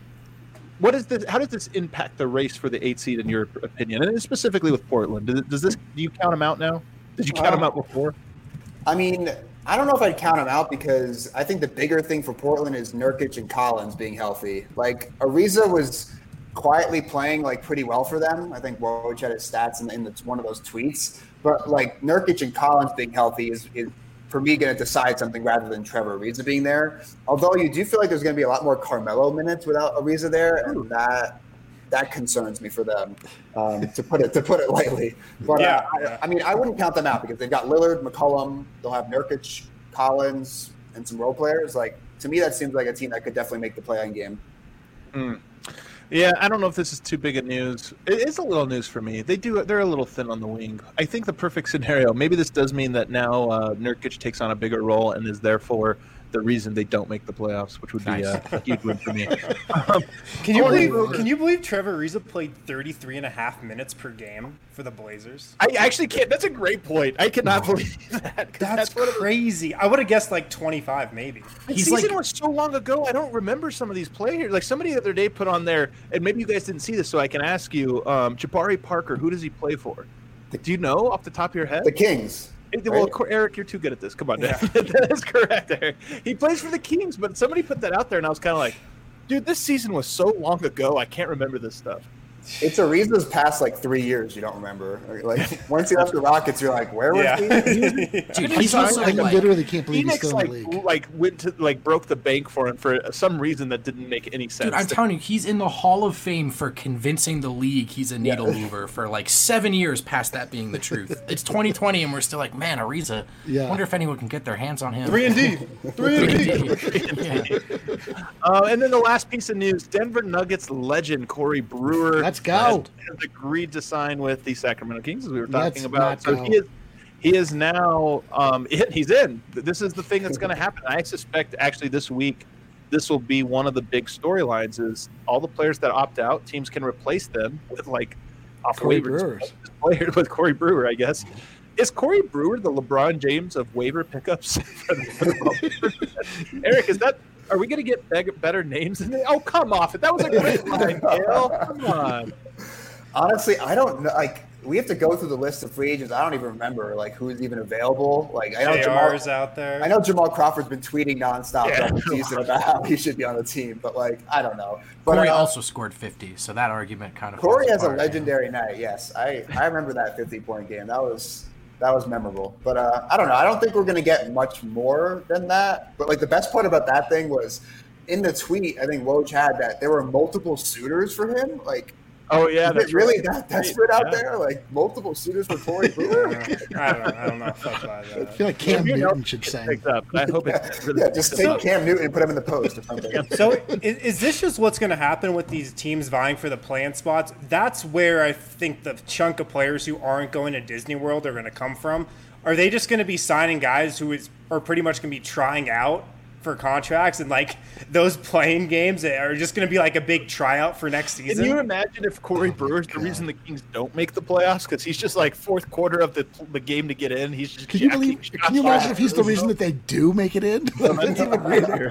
what is this? How does this impact the race for the eight seed in your opinion, and specifically with Portland? Does, does this? Do you count them out now? Did you count them out before?
I mean, I don't know if I'd count them out because I think the bigger thing for Portland is Nurkic and Collins being healthy. Like Ariza was quietly playing like pretty well for them. I think Woj had his stats in, in the, one of those tweets. But like Nurkic and Collins being healthy is, is for me going to decide something rather than Trevor Ariza being there. Although you do feel like there's going to be a lot more Carmelo minutes without Ariza there, and that that concerns me for them, um, to put it to put it lightly. But
Yeah.
uh, I, I mean, I wouldn't count them out because they've got Lillard, McCollum, they'll have Nurkic, Collins, and some role players. Like to me, that seems like a team that could definitely make the play-in game.
Mm. Yeah, I don't know if this is too big a news. It is a little news for me. They do they're a little thin on the wing. I think the perfect scenario. Maybe this does mean that now uh, Nurkic takes on a bigger role and is therefore the reason they don't make the playoffs, which would be
Nice.
a, a huge win for me. Um,
Can you
I wanna-
believe? Can you believe Trevor Ariza played thirty-three and a half minutes per game for the Blazers?
I actually can't. That's a great point. I cannot believe that. 'cause
That's,
what it was.
crazy. I would have guessed like twenty-five, maybe.
The
He's
season
like-
was so long ago. I don't remember some of these players. Like somebody the other day put on there, and maybe you guys didn't see this, so I can ask you. Um, Jabari Parker. Who does he play for? Do you know off the top of your head?
The Kings.
Well,
right?
Eric, you're too good at this. Come on, that is correct, Eric. He plays for the Kings, but somebody put that out there, and I was kind of like, dude, this season was so long ago. I can't remember this stuff.
It's Ariza's past like three years you don't remember. Like once he left the Rockets, you're like, where was
Yeah.
he?
Dude,
He's
he's also
I
like,
literally can't believe he's
Phoenix
still in the
like
league.
like went to like broke the bank for him for some reason that didn't make any sense.
dude, I'm telling you, he's in the Hall of Fame for convincing the league he's a needle mover for like seven years past that being the truth. It's twenty twenty, and we're still like, man, Ariza.
Yeah.
Wonder if anyone can get their hands on him.
Three and D. Three and D.
Yeah.
Uh, and then the last piece of news: Denver Nuggets legend Corey Brewer.
Let's go.
Has, has agreed to sign with the Sacramento Kings, as we were talking
Let's
about.
not
So
go.
he is he is now um, in, he's in. This is the thing that's going to happen. I suspect actually this week, this will be one of the big storylines. Is all the players that opt out, teams can replace them with like off
Corey
waivers
Brewers.
players with Corey Brewer, I guess. Is Corey Brewer the LeBron James of waiver pickups? Eric, is that? Are we going to get beg- better names? Than oh, come off it. That was a great line, Gail. Come on.
Honestly, I don't know. Like, we have to go through the list of free agents. I don't even remember like who's even available. Like, I know
J
Jamal.
R's out there.
I know Jamal Crawford's been tweeting nonstop
Yeah.
throughout the season about how he should be on the team, but like, I don't know. But
Corey
uh,
also scored fifty, so that argument kind of.
Corey
falls
has a
apart, yeah.
legendary night. Yes, I I remember that fifty-point game. That was that was memorable. But uh, I don't know. I don't think we're gonna get much more than that. But like the best part about that thing was in the tweet. I think Woj had that there were multiple suitors for him. Like,
Oh yeah,
is
that's
it really
right.
that desperate out
Yeah.
there? Like multiple suitors for Corey Brewer?
I don't know. I don't know if I buy
I
that.
feel like Cam
You know,
Newton should
it
say.
picked up. I hope it's really
yeah, just take Cam Newton and put him in the post or something.
So is, is this just what's going to happen with these teams vying for the play-in spots? That's where I think the chunk of players who aren't going to Disney World are going to come from. Are they just going to be signing guys who is are pretty much going to be trying out for contracts, and like those playing games are just going to be like a big tryout for next
Can
season?
you imagine if Corey Brewer's the reason the Kings don't make the playoffs because he's just like fourth quarter of the the game to get in? He's just
Can you
jacking
believe?
shots
Can you imagine
off.
if he's the reason that they do make it in? That's even weirder.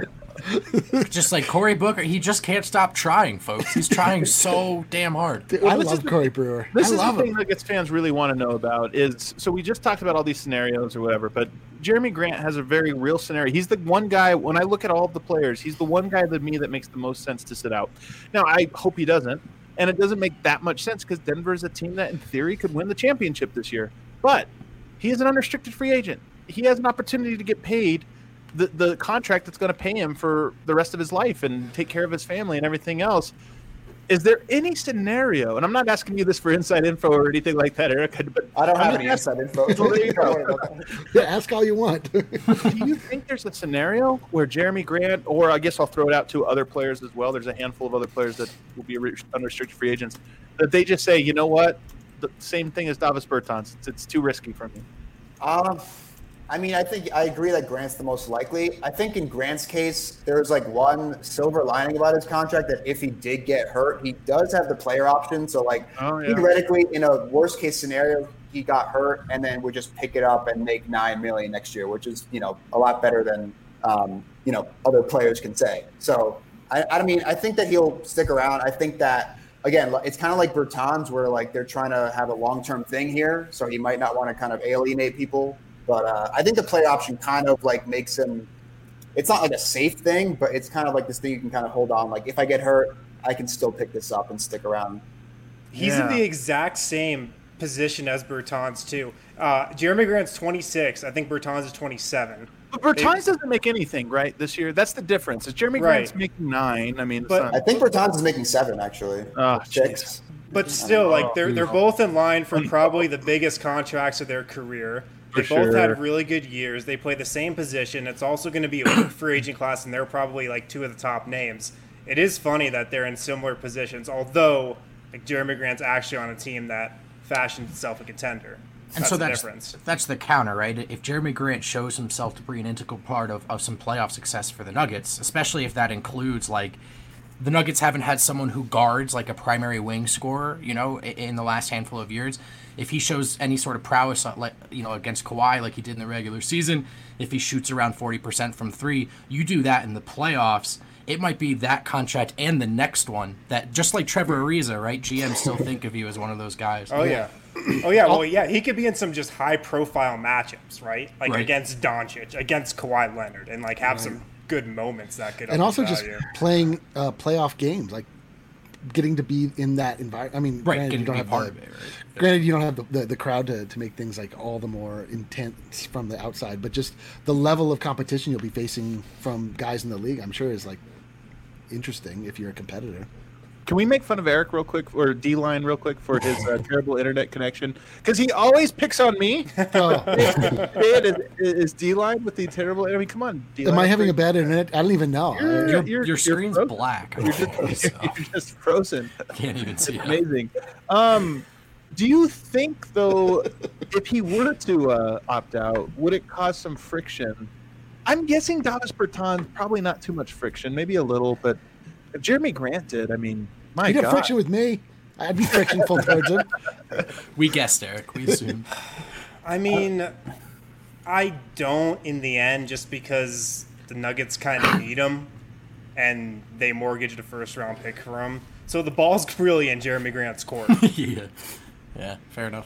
Just like Cory Booker, he just can't stop trying, folks. He's trying so damn hard.
Dude,
Well,
I
this
love
is the-
Corey Brewer.
This
I
is
love
the thing
him.
Nuggets fans really want to know about is, so we just talked about all these scenarios or whatever, but Jeremy Grant has a very real scenario. He's the one guy, when I look at all of the players, he's the one guy to me that makes the most sense to sit out. Now, I hope he doesn't, and it doesn't make that much sense because Denver is a team that in theory could win the championship this year. But he is an unrestricted free agent. He has an opportunity to get paid the, the contract that's going to pay him for the rest of his life and take care of his family and everything else. Is there any scenario, and I'm not asking you this for inside info or anything like that, Erica, but
I don't
I'm
have any
just
inside info. So there you go.
Yeah, ask all you want.
do you think there's a scenario where Jeremy Grant, or I guess I'll throw it out to other players as well, there's a handful of other players that will be unrestricted free agents, that they just say, you know what, the same thing as Davis Bertans, it's, it's too risky for me?
Um, I mean, I think I agree that Grant's the most likely. I think in Grant's case, there's like one silver lining about his contract that if he did get hurt, he does have the player option. So like
Oh, yeah.
theoretically, in a worst case scenario, he got hurt and then would just pick it up and make nine million next year, which is, you know, a lot better than um, you know, other players can say. So I, I mean, I think that he'll stick around. I think that again, it's kind of like Bertans, where like they're trying to have a long-term thing here, so he might not want to kind of alienate people. But uh, I think the play option kind of like makes him. It's not like a safe thing, but it's kind of like this thing you can kind of hold on. Like if I get hurt, I can still pick this up and stick around.
He's
Yeah.
in the exact same position as Bertans too. Uh, Jeremy Grant's twenty-six. I think Bertans is twenty-seven.
But Bertans doesn't make anything, right, this year? That's the difference. Is Jeremy
Right.
Grant's making nine? I mean, it's
But-
not-
I think Bertans is making seven actually.
Oh,
Six.
But still, like they're they're both in line for probably the biggest contracts of their career. They
For
both
sure.
had really good years. They play the same position. It's also going to be a weak free agent class, and they're probably like two of the top names. It is funny that they're in similar positions, although like Jeremy Grant's actually on a team that fashioned itself a contender.
And
That's
so
the
that's
difference.
that's the counter, right? If Jeremy Grant shows himself to be an integral part of, of some playoff success for the Nuggets, especially if that includes like the Nuggets haven't had someone who guards like a primary wing scorer, you know, in, in the last handful of years. If he shows any sort of prowess, uh, like you know, against Kawhi, like he did in the regular season, if he shoots around forty percent from three, you do that in the playoffs. It might be that contract and the next one that, just like Trevor Ariza, right? G M still think of you as one of those guys.
Oh yeah. Oh yeah, well yeah, he could be in some just high profile matchups, right? Like
Right.
against Doncic, against Kawhi Leonard, and like have some good moments that could
and
up
also
his
just
value.
playing uh, playoff games, like getting to be in that environment. I mean,
Right,
granted,
getting
you don't
to
have
be part
the,
of it, right?
granted, you don't have the, the, the crowd to, to make things like all the more intense from the outside, but just the level of competition you'll be facing from guys in the league, I'm sure is like interesting if you're a competitor.
Can we make fun of Eric real quick, or D-Line real quick, for his uh, terrible internet connection? Because he always picks on me.
Oh,
It is, is D-Line with the terrible. I mean, come on. D-Line.
am I having a bad internet? I don't even know.
You're-
I-
Your,
You're-
your
you're
screen's
frozen.
black.
You're just,
so
you're just frozen.
can't even see it.
Amazing. Um, do you think, though, if he were to uh, opt out, would it cause some friction? I'm guessing Davis Bertans, probably not too much friction, maybe a little, but if Jeremy Grant did, I mean, my
He'd have
God.
friction with me. I'd be frictionful towards him.
We guessed, Eric. We assumed.
I mean, I don't in the end, just because the Nuggets kind of need him, and they mortgaged a first round pick for him. So the ball's really in Jeremy Grant's court.
yeah. Yeah, fair enough.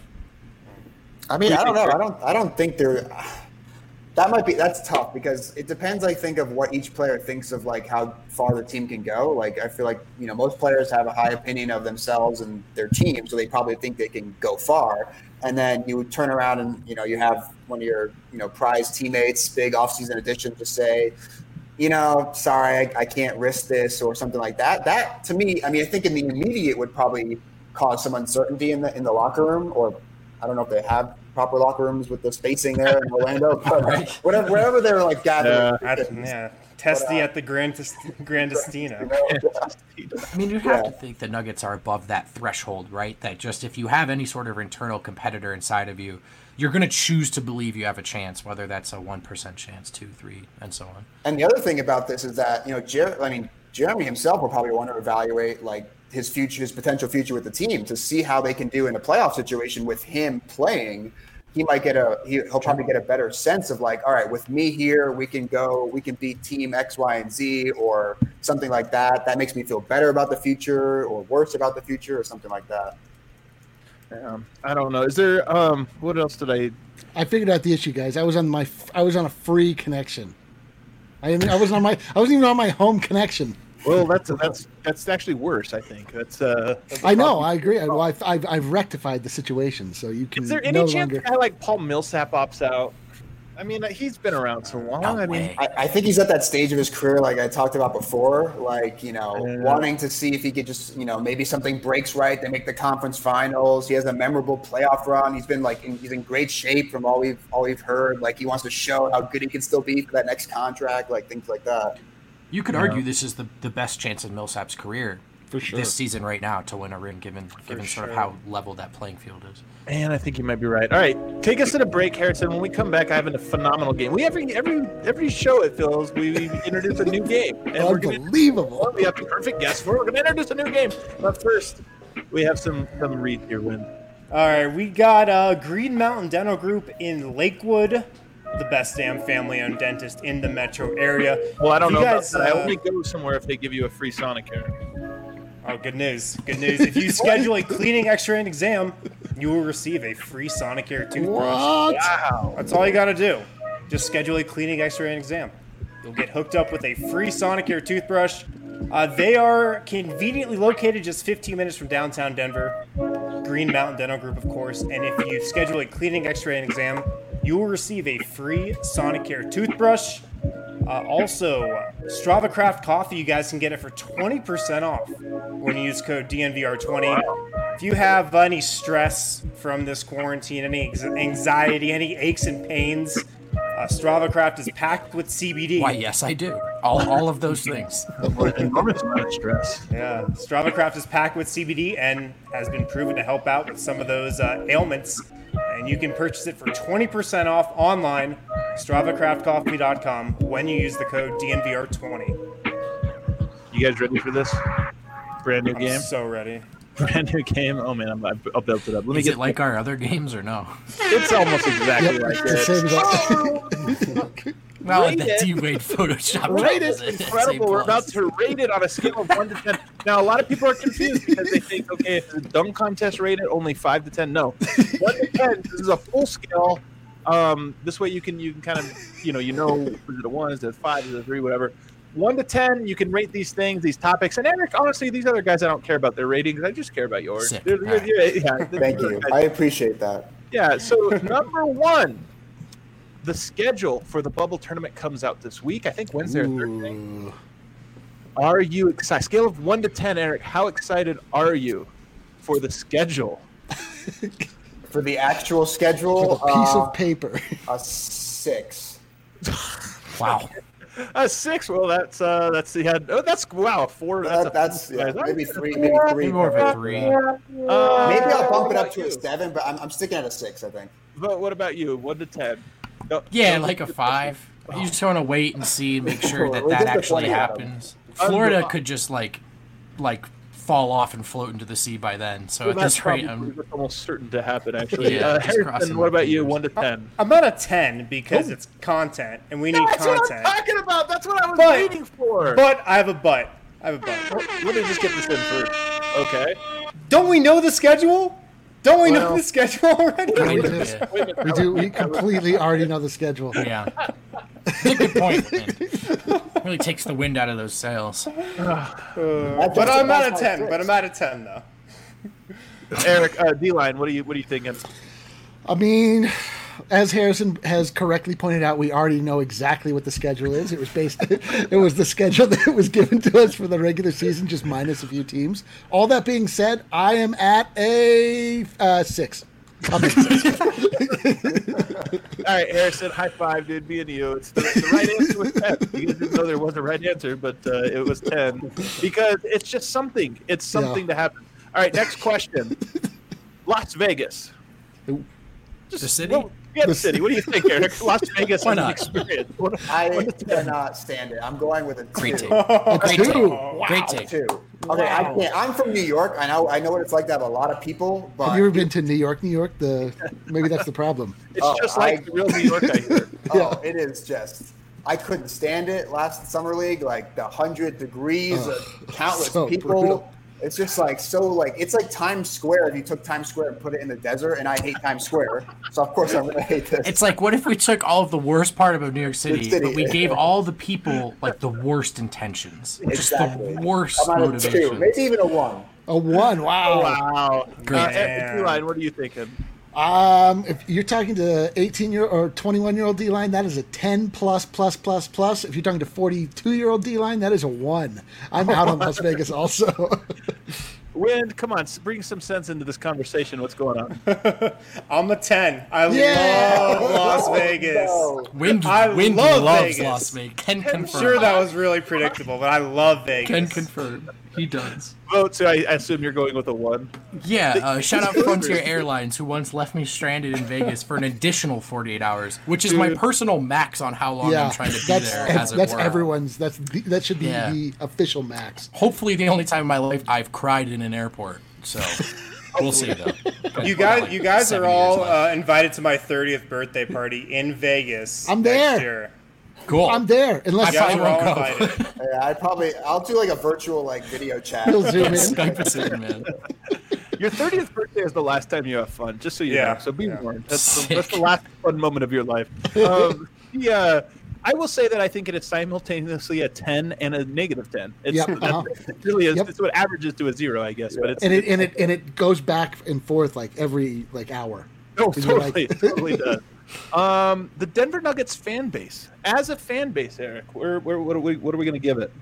I mean, I don't know. I don't. I don't think they're. That might be. That's tough because it depends. I think of what each player thinks of, like how far the team can go. Like I feel like you know most players have a high opinion of themselves and their team, so they probably think they can go far. And then you turn around and you know you have one of your you know prized teammates, big offseason addition, to say, you know, sorry, I, I can't risk this or something like that. That to me, I mean, I think in the immediate would probably cause some uncertainty in the in the locker room, or I don't know if they have proper locker rooms with the spacing there in Orlando, but whatever, wherever they're like gathering.
I, yeah, Testy at the Grandest, Grandestina.
I mean, you have
Yeah.
to think the Nuggets are above that threshold, right? That just if you have any sort of internal competitor inside of you, you're going to choose to believe you have a chance, whether that's a one percent chance, two, three, and so on.
And the other thing about this is that you know, Jer- I mean, Jeremy himself will probably want to evaluate like his future, his potential future with the team to see how they can do in a playoff situation with him playing. he might get a he, he'll probably get a better sense of like, all right, with me here, we can go, we can beat team X, Y, and Z, or something like that. That makes me feel better about the future, or worse about the future, or something like that.
Um, I don't know. Is there um what else did I?
I figured out the issue, guys. I was on my I was on a free connection. I I wasn't on my I wasn't even on my home connection.
Well, that's that's that's actually worse. I think that's. Uh, that's
I know. I agree. Well, I've, I've I've rectified the situation, so you can.
Is there any
no
chance
longer...
a guy like Paul Millsap opts out? I mean, he's been around so long.
No
I mean,
way.
I, I think he's at that stage of his career, like I talked about before, like, you know,
Yeah.
wanting to see if he could just, you know, maybe something breaks right. They make the conference finals. He has a memorable playoff run. He's been like, in, he's in great shape from all we've, all we've heard. Like, he wants to show how good he can still be for that next contract, like things like that.
You could argue this is the, the best chance in Millsap's career
For sure.
this season right now to win a ring, given given sort of how level that playing field is.
man, I think you might be right. All right, take us to the break, Harrison. When we come back, I have a phenomenal game. We every every every show it feels we introduce a new game, and we're gonna
Unbelievable.
we have a perfect guest for. it. We're gonna introduce a new game, but first we have some some read here. Win.
All right, we got uh, Green Mountain Dental Group in Lakewood, the best damn family-owned dentist in the metro area.
Well, I don't
You
know
guys,
about that.
uh,
I only go somewhere if they give you a free Sonicare.
Oh, good news. Good news. If you schedule a cleaning, x-ray, and exam, you will receive a free Sonicare toothbrush.
What?
Wow.
That's all you got to do. Just schedule a cleaning, x-ray, and exam. You'll get hooked up with a free Sonicare toothbrush. Uh, they are conveniently located just fifteen minutes from downtown Denver. Green Mountain Dental Group, of course. And if you schedule a cleaning, x-ray, and exam, you will receive a free Sonicare toothbrush. Uh, also, Strava Craft Coffee, you guys can get it for twenty percent off when you use code D N V R twenty. If you have uh, any stress from this quarantine, any ex- anxiety, any aches and pains, uh, Strava Craft is packed with C B D.
Why, yes, I do. All all of those things.
Enormous amount of stress.
Yeah, Strava Craft is packed with C B D and has been proven to help out with some of those uh, ailments. And you can purchase it for twenty percent off online, strava craft coffee dot com, when you use the code D N V R twenty.
You guys ready for this brand new
I'm
game?
so ready.
Brand new game. Oh man, I'm, I've I've built it up. Let me
Is
get
it like our other games or no?
It's almost exactly
Yep,
like
it's the same
it.
as that.
Well,
Rate
the
it.
D-Wade Photoshop.
Rate
is
is
it?
incredible.
Same
We're about
plus.
to rate it on a scale of one to ten. Now, a lot of people are confused because they think, okay, if the dunk contest rated only five to ten. No, one to ten. This is a full scale. Um, this way, you can you can kind of you know you know is it a one, is it a five, is it a three, whatever. One to ten, you can rate these things, these topics. And Eric, honestly, these other guys, I don't care about their ratings. I just care about yours.
Sick.
They're- they're-
All right.
yeah, yeah,
Thank you. I appreciate that.
Yeah, so number one, the schedule for the bubble tournament comes out this week. I think Wednesday or Thursday.
Ooh.
Are you excited? Scale of one to ten, Eric, how excited are you for the schedule?
For the actual schedule,
With a piece
uh,
of paper.
a six.
Wow.
A six. Well, that's uh, that's the yeah, oh, that's wow, a four. That's,
That,
a
that's yeah,
All right.
maybe three, maybe three.
Maybe more of a three.
Uh,
Maybe I'll bump
what
it up
about
to
you?
a seven, but I'm, I'm sticking at a six, I think.
But what about you? One to ten. No,
Yeah,
no,
like a five. You just want to wait and see, make sure that
We're
that
disappointed
actually
at 'em.
happens. Florida could just like, like fall off and float into the sea by then. So
Well,
at
that's
this rate,
probably
I'm
that's almost certain to happen. Actually,
Yeah,
uh,
just crossing
Harrison, what
my
about you?
fingers.
One to ten.
I'm at a ten because it's content, and we need
That's what I'm
content.
talking about. That's what I was
But-
waiting for.
But I have a but. I have a but.
Let me just get this in first. Okay.
Don't we know the schedule? Don't we
Well-
know the schedule already?
kind
We
of,
do.
yeah.
Wait a minute.
We do. We completely already know the schedule.
Yeah. That's a good point. Man. Really takes the wind out of those sails.
But I'm at a ten. But I'm at a ten though.
Eric, uh, D-line, what are you what are you thinking?
I mean, as Harrison has correctly pointed out, we already know exactly what the schedule is. It was based. It was the schedule that was given to us for the regular season, just minus a few teams. All that being said, I am at a uh, six. I'll take six.
All right, Harrison, high five, dude. Me and you. It's the, the right answer was ten. You guys didn't know there was a right answer, but uh, it was ten because it's just something. It's something
Yeah.
to happen. All right, next question. Las Vegas.
The city?
Well, yeah, the
The
city. What do you think, Eric? Las Vegas
Why
as an
not?
experience. What,
I
what is that?
cannot stand it. I'm going with a two.
Great take.
A
Great
two.
take. Great
A
take.
two. Okay, I can't. I'm from New York. I know. I know what it's like to have a lot of people. But
Have you ever been to New York, New York? The maybe that's the problem.
It's
Oh,
just like
I-
the real New York, I hear.
Oh, it is just. I couldn't stand it last summer league. Like the hundred degrees,
Ugh,
of countless
so
people.
brutal.
It's just like so like it's like Times Square if you took Times Square and put it in the desert, and I hate Times Square, so of course I'm gonna hate this.
It's like, what if we took all of the worst part of New York City,
City.
but we gave all the people like the worst intentions, just
Exactly.
the worst
I'm on a two,
motivations.
maybe even a one.
A one. Wow.
Wow.
Great.
Uh, D-line, what are you thinking?
Um, if you're talking to eighteen year or twenty-one year old D line, that is a ten plus plus plus plus. If you're talking to forty-two year old D line, that is a one. I'm out on Las Vegas also.
Wind, come on, s- bring some sense into this conversation. What's going on?
I'm a ten. I
Yeah.
love Las Vegas.
No.
Wind,
I
Wind
love
loves
Vegas.
Las Vegas. Can confirm.
I'm sure that was really predictable, but I love Vegas.
Can confirm. He does.
Oh, so I, I assume you're going with a one.
Yeah, uh, shout out Frontier Airlines, who once left me stranded in Vegas for an additional forty-eight hours, which is my
Dude.
personal max on how long
yeah,
I'm trying to be
that's
there,
ev-
as it
that's
were.
everyone's. That's the, that should be
Yeah.
the official max.
Hopefully, the only time in my life I've cried in an airport. So we'll see, though.
You guys, you guys
Seven
are all
years left.
uh, invited to my thirtieth birthday party in Vegas.
I'm
next
there.
year.
Cool.
I'm there, unless
You guys
I
are all
won't go.
invited.
Yeah, I probably I'll do like a virtual like video chat.
He'll zoom in.
Skype us in, man.
Your thirtieth birthday is the last time you have fun, just so you
Yeah.
know. So be
Yeah.
warned. That's the,
Sick.
that's the last fun moment of your life. Um, yeah, I will say that I think it is simultaneously a ten and a negative ten. It's,
Yep,
that's,
uh-huh.
it really is.
Yep.
It's what averages to a zero, I guess. But it's
And it and it and it goes back and forth like every like hour.
no,
And you're like-
totally, totally does. Um, the Denver Nuggets fan base, as a fan base, Eric, where, where, what are we, what are we going to give it?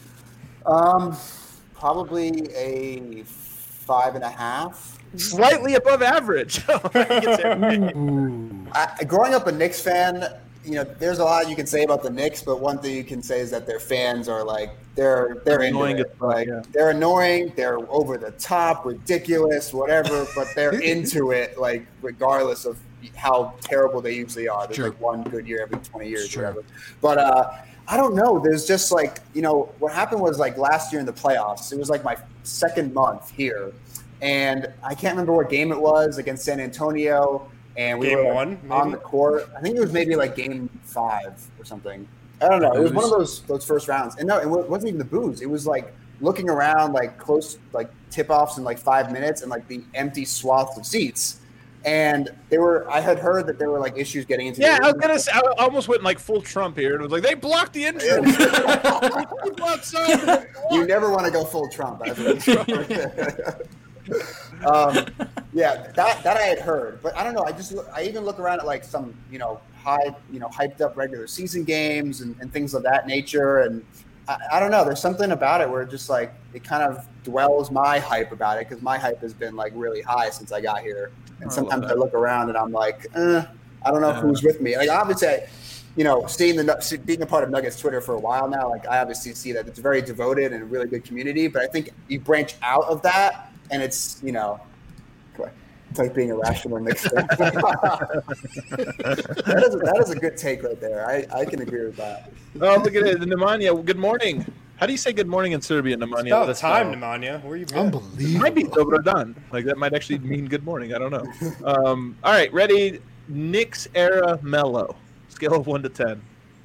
Um, probably a five and a half.
Slightly above average. I think it's Eric.
I, growing up a Knicks fan, you know, there's a lot you can say about the Knicks, but one thing you can say is that their fans are like they're they're into
Annoying
it.
as fuck,
Like
yeah.
they're annoying, they're over the top, ridiculous, whatever, but they're into it, like regardless of how terrible they usually are. There's
Sure.
like one good year every twenty years,
Sure.
or whatever. But uh, I don't know. There's just like you know what happened was like last year in the playoffs. It was like my second month here, and I can't remember what game it was against San Antonio. And we
Game
were like,
one,
on
maybe?
the court. I think it was maybe like game five or something. I don't know. It was one of those those first rounds. And no, it wa- wasn't even the booze. It was like looking around, like close, like tip offs in like five minutes, and like the empty swaths of seats. And they were. I had heard that there were like issues getting into.
Yeah,
the
I was gonna say. I almost went like full Trump here, and was like, they blocked the entrance. They blocked some.
You never want to go full Trump. That's what it's um, yeah, that that I had heard, but I don't know. I just look, I even look around at like some you know high you know hyped up regular season games and, and things of that nature, and I, I don't know. There's something about it where it just like it kind of dwells my hype about it because my hype has been like really high since I got here, and
I
sometimes
love
I
that.
look around and I'm like, eh, I don't know
Yeah.
who's with me. Like obviously. I, you know, seeing the see- being a part of Nuggets Twitter for a while now, like I obviously see that it's very devoted and a really good community. But I think you branch out of that, and it's you know, it's like being irrational Knicks fan. that is a, that is a good take right there. I, I can agree with that.
Oh, look at it, Nemanja. Good morning. How do you say good morning in Serbian, Nemanja?
It's about
Let us
time,
know.
Nemanja. Where you been?
Unbelievable.
Might be Dobro Dan. Like that might actually mean good morning. I don't know. Um, all right, ready? Knicks era Mello. Scale of one to ten.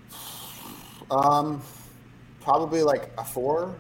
Um, probably like a four.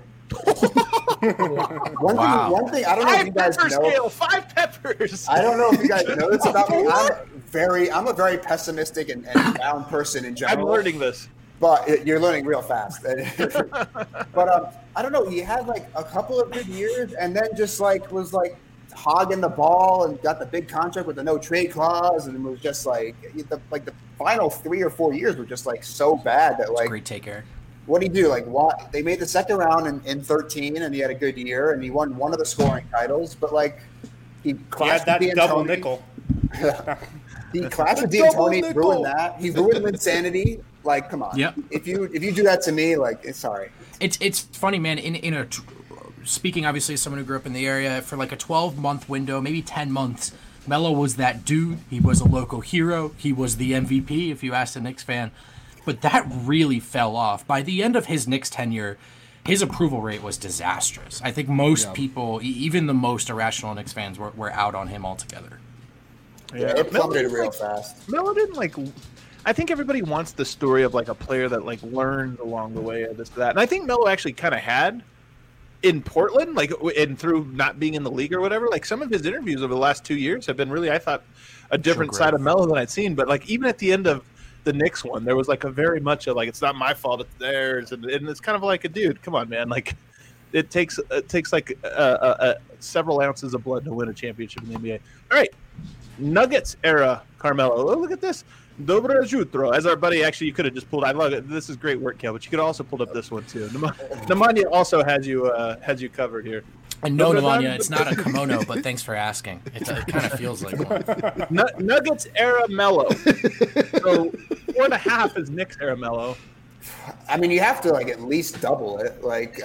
one
Wow.
thing, one thing I don't know if you
Five
guys
pepper
know.
scale. Five peppers.
I don't know if you guys know this about me. I'm very, I'm a very pessimistic and, and down person in
I'm
general.
learning this.
But it, you're learning real fast. But um, I don't know. He had like a couple of good years, and then just like was like hogging the ball and got the big contract with the no trade clause, and was just like the like the final three or four years were just like so bad that like
Great take, Eric.
what did he do? Like what, they made the second round in, in thirteen, and he had a good year, and he won one of the scoring titles. But like he
He had
clashed
that
with
double
D'Antoni.
nickel.
He clashed with
Double
D'Antoni,
nickel.
ruined that. He ruined Linsanity. Like, come on.
Yep.
If you if you do that to me, like, it's sorry.
It's it's funny, man. In in a tr- speaking obviously as someone who grew up in the area for like a twelve month window, maybe ten months. Melo was that dude. He was a local hero. He was the M V P. If you asked a Knicks fan, but that really fell off by the end of his Knicks tenure. his approval rate was disastrous. I think most
Yeah.
people, e- even the most irrational Knicks fans, were, were out on him altogether.
Yeah, it plummeted real fast.
Melo didn't like. I think everybody wants the story of like a player that like learned along the way of this to that, and I think Melo actually kind of had in Portland, like and through not being in the league or whatever. Like some of his interviews over the last two years have been really, I thought, a different
Sure,
side
great.
of Melo than I'd seen. But like even at the end of the Knicks one, there was like a very much a like it's not my fault, it's theirs, and, and it's kind of like a dude, come on, man, like it takes it takes like uh, uh, uh, several ounces of blood to win a championship in the N B A. All right, Nuggets era Carmelo. Oh, look at this. Dobre jutro. As our buddy, actually, you could have just pulled. I love it. This is great work, Kel. But you could have also pulled up this one too. Nema- Nemanja also has you uh, has you covered here.
And no, Nemanja, it's not a kimono, but thanks for asking. It, it kind of feels like one.
N- Nuggets era Melo. So four and a half is Knicks era Melo.
I mean, you have to like at least double it. Like,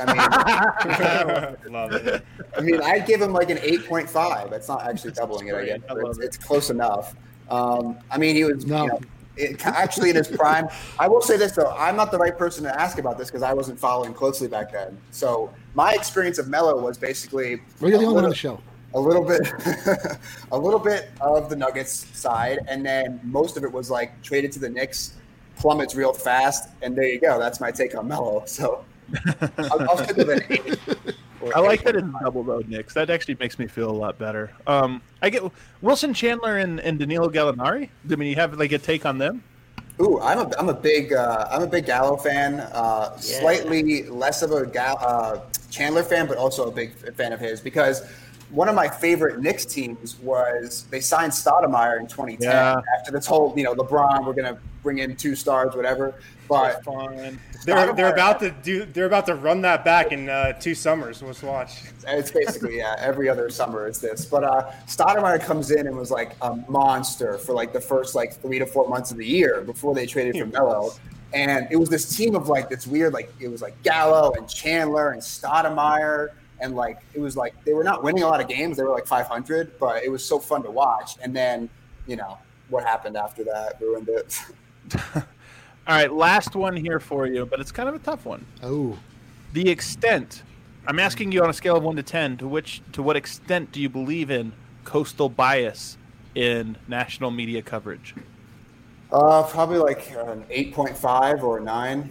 I mean,
Love it.
I mean, I'd give him like an eight point five. It's not actually doubling it, I guess.
I
But
love
it's,
it.
it's close enough. Um, I mean, he was
No.
you know, it, actually in his prime. I will say this though: I'm not the right person to ask about this because I wasn't following closely back then. So my experience of Melo was basically
Well, you're the
a
only one on
little-
the show.
a little bit a little bit of the Nuggets side, and then most of it was like traded to the Knicks, plummets real fast, and there you go. That's my take on Melo. So I'll, I'll stick with an eight. or
I like that
eight
in
point five.
double though, Knicks. That actually makes me feel a lot better. Um, I get Wilson Chandler and, and Danilo Gallinari. I mean, you have like a take on them?
Ooh, I'm a I'm a big uh, I'm a big Gallo fan. Uh, Slightly less of a Gal- uh, Chandler fan, but also a big fan of his because one of my favorite Knicks teams was they signed Stoudemire in twenty ten
Yeah.
after this whole you know LeBron, we're gonna bring in two stars, whatever. But
Fine.
They're they're
Stoudemire-
about to do. They're about to run that back in uh, two summers. Let's watch.
It's basically, yeah, every other summer is this. But uh, Stoudemire comes in and was like a monster for like the first like three to four months of the year before they traded for Melo. And it was this team of like this weird, like it was like Gallo and Chandler and Stoudemire. And like it was like they were not winning a lot of games. They were like five hundred, but it was so fun to watch. And then, you know, what happened after that ruined it.
All right, last one here for you, but it's kind of a tough one.
Oh,
The extent. I'm asking you on a scale of one to ten. To which, to what extent do you believe in coastal bias in national media coverage?
Uh, probably like an eight point five or a nine.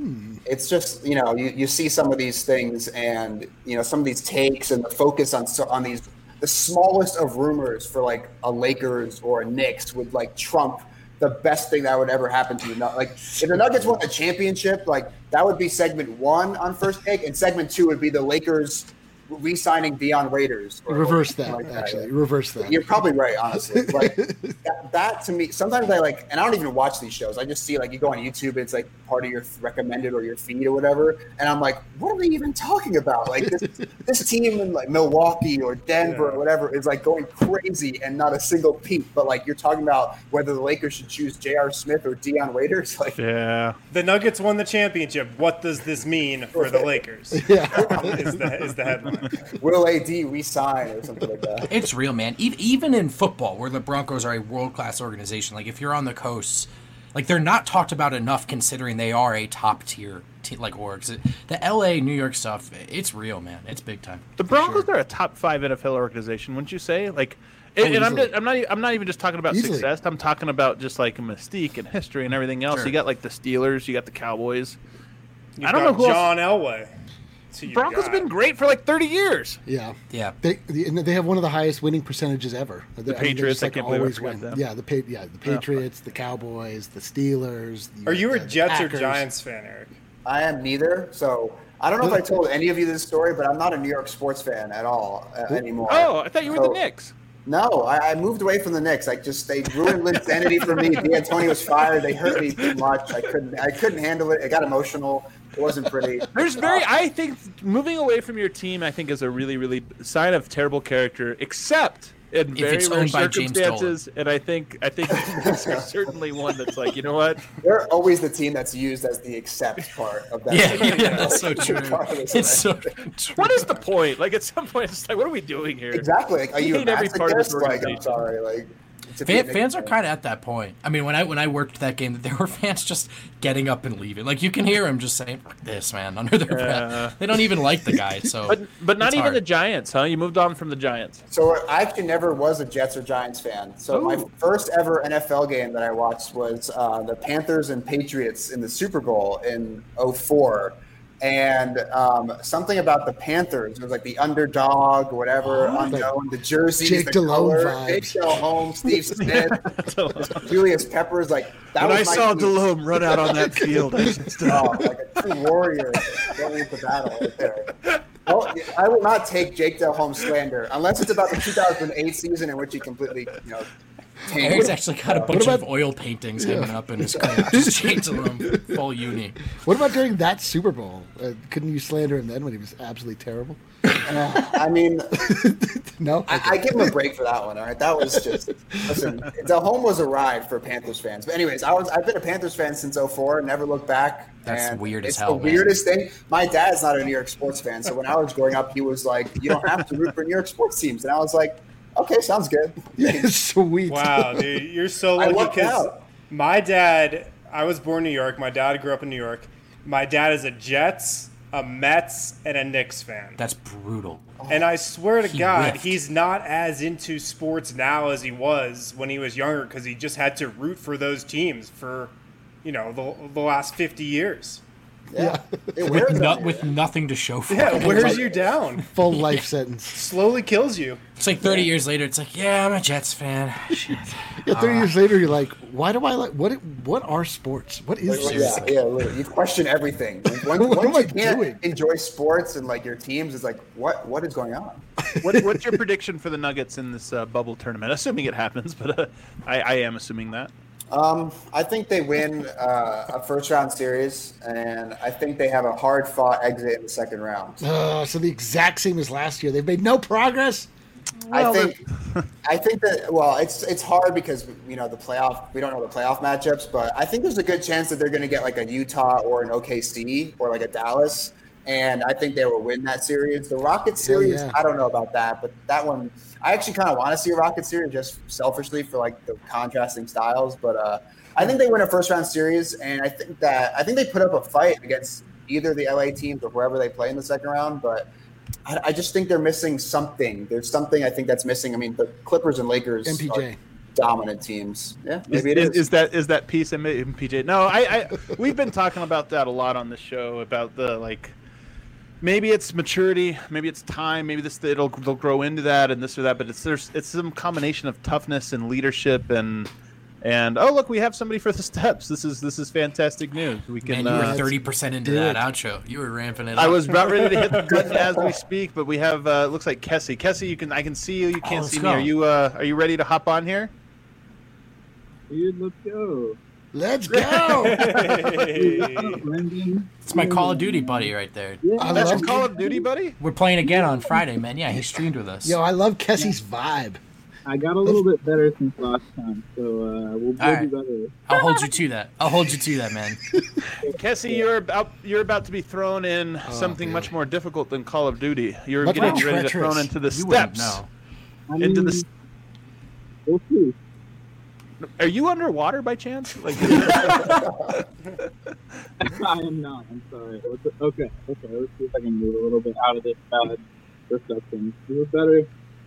It's just, you know, you, you see some of these things and, you know, some of these takes and the focus on so- on these, the smallest of rumors for like a Lakers or a Knicks would like trump the best thing that would ever happen to you. Not- Like if the Nuggets won the championship, like that would be segment one on First Take, and segment two would be the Lakers re-signing Deion Waiters. or-
reverse
or something
that,
like that.
actually. Reverse that.
You're probably right, honestly. Like that, that to me, sometimes I like, and I don't even watch these shows. I just see like you go on YouTube, it's like part of your recommended or your feed or whatever, and I'm like, what are we even talking about? Like this, this team in like Milwaukee or Denver
Yeah.
or whatever is like going crazy and not a single peep. But like you're talking about whether the Lakers should choose J R. Smith or Deion Waiters. Like
Yeah.
The Nuggets won the championship. What does this mean for the Lakers?
Yeah.
Is the is the headline.
will A D resign or something like that?
It's real, man. E- Even in football, where the Broncos are a world-class organization, like if you're on the coasts, like they're not talked about enough considering they are a top-tier te- like orgs. The L A, New York stuff, it's real, man. It's big time.
The Broncos are a top five N F L organization, wouldn't you say? Like, and, and I'm,
easily.
just, I'm not. e- I'm not even just talking about
Easily.
success. I'm talking about just like mystique and history and everything else.
Sure.
You got like the Steelers. You got the Cowboys.
You've
I don't
got
know who else-
John Elway. So you
Broncos
got-
have been great for like thirty years.
Yeah.
Yeah.
They the- they have one of the highest winning percentages ever. The
Patriots, I can't believe I forgot them.
Yeah, the pa- yeah the Patriots, the Cowboys, the Steelers. The,
Are you a
the
Jets or
Packers.
Giants fan, Eric?
I am neither. So I don't know if I told any of you this story, but I'm not a New York sports fan at all uh, anymore.
Oh, I thought you were
So-
the Knicks.
No, I, I moved away from the Knicks. I just they ruined insanity for me. D'Antoni was fired. They hurt me too much. I couldn't. I couldn't handle it. It got emotional. It wasn't pretty.
There's very.
Uh,
I think moving away from your team, I think, is a really, really sign of terrible character. Except in
If
very
it's
rare
owned by James
circumstances, and I think I think there's certainly one that's like, you know what?
They're always the team that's used as the accept part of that.
Yeah, yeah, that's so true.
Regardless of
It's so
anything.
true.
What is the point? Like at some point, it's like, what are we doing here?
Exactly. Like, are you a
hate every part of this
masochist? Like, I'm
organization.
sorry. Like, to be a
Fan,
Knicks
fans are
fan.
kind of at that point. I mean, when I when I worked that game, there were fans just getting up and leaving. Like you can hear them just saying "Fuck this, man" under their
Yeah.
breath. They don't even like the guy. So,
But but not
it's
even
hard.
the Giants, huh? You moved on from the Giants.
So I actually never was a Jets or Giants fan. So my first ever N F L game that I watched was uh, the Panthers and Patriots in the Super Bowl in oh four. And um, something about the Panthers, it was like the underdog or whatever, unknown, the jerseys,
Jake
the
Delhomme
color,
vibes.
Jake Delhomme, Steve Smith, Julius Peppers, like that
When
was
I
my
saw
team.
Delhomme run out on that field, I just,
Oh, like a true warrior going into battle right there. Well, I will not take Jake Delhomme slander unless it's about the two thousand eight season in which he completely, you know, tanked.
Eric's actually got a bunch
about-
of oil paintings hanging up in his crib. Just changing them full uni.
What about during that Super Bowl? Uh, couldn't you slander him then when he was absolutely terrible?
I mean,
No.
I, I give him a break for that one. All right, that was just listen. Delhomme was a ride for Panthers fans. But anyways, I was I've been a Panthers fan since oh four. Never looked back.
That's
and
weird as
it's
hell,
the
man.
weirdest thing. My dad's not a New York sports fan, so when I was growing up, he was like, "You don't have to root for New York sports teams," and I was like, "Okay, sounds good."
Sweet.
Wow, dude, you're so
I
lucky
lucked
because
out.
my dad, I was born in New York. My dad grew up in New York. My dad is a Jets, a Mets, and a Knicks fan.
That's brutal.
And I swear to
He
God,
whiffed.
he's not as into sports now as he was when he was younger because he just had to root for those teams for, you know, the, the last fifty years.
Yeah, it
With,
wears
no,
on you.
with nothing to show for
Yeah,
it.
it wears you down.
Full life sentence.
Slowly kills you.
It's like thirty years later, it's like, yeah, I'm a Jets fan. Shit.
Yeah, thirty years later, you're like, why do I like what? What are sports? What is
Like,
this?
yeah, yeah, literally. You question everything. Once,
What
once
am I
you can't
doing?
enjoy sports and like your teams, it's like, what what is going on?
what, what's your prediction for the Nuggets in this uh, bubble tournament? Assuming it happens, but uh, I, I am assuming that.
Um, I think they win uh, a first round series, and I think they have a hard fought exit in the second round.
Uh, so the exact same as last year. They've made no progress.
I think, I think that well, it's it's hard because you know the playoff. We don't know the playoff matchups, but I think there's a good chance that they're going to get like a Utah or an O K C or like a Dallas, and I think they will win that series. The Rockets series,
yeah.
I don't know about that, but that one, I actually kind of want to see a Rockets series just selfishly for like the contrasting styles. But uh, I think they win a first round series, and I think that I think they put up a fight against either the L A teams or whoever they play in the second round, but. I, I just think they're missing something. There's something I think that's missing. I mean, the Clippers and Lakers
M P J.
are dominant teams. Yeah,
Is,
maybe it
is,
is.
is that is that piece in M P J? No, I, I we've been talking about that a lot on this show about the like maybe it's maturity, maybe it's time, maybe this it'll they'll grow into that and this or that, but it's there's it's some combination of toughness and leadership and and oh look, we have somebody for the steps. This is this is fantastic news. We can.
Man, you were
uh,
thirty percent into
Dude.
that outro. You were ramping it up.
I was about ready to hit the button as we speak, but we have uh, looks like Kessie. Kessie, you can I can see you. You can't
let's
see
go.
me. Are you uh, are you ready to hop on here?
Dude, let's go.
Let's go.
Hey.
Brendan.
It's my Call of Duty buddy right there.
I
That's your
love,
Call of Duty, buddy.
We're playing again on Friday, man. Yeah, he streamed with us.
yo, I love Kessie's vibe.
I got a little bit better since last time, so uh, we'll, we'll
All right.
do better.
I'll hold you to that. I'll hold you to that, man.
Kessie, you're about you're about to be thrown in something
man.
much more difficult than Call of Duty. You're
Much
getting
more
ready to
treacherous.
thrown into the
You wouldn't
steps.
know.
I
Into
mean,
the.
we'll see.
Are you underwater by chance? Like,
I am not. I'm sorry. Let's- Okay, okay. Let's see if I can move a little bit out of this bad reception. Do it better.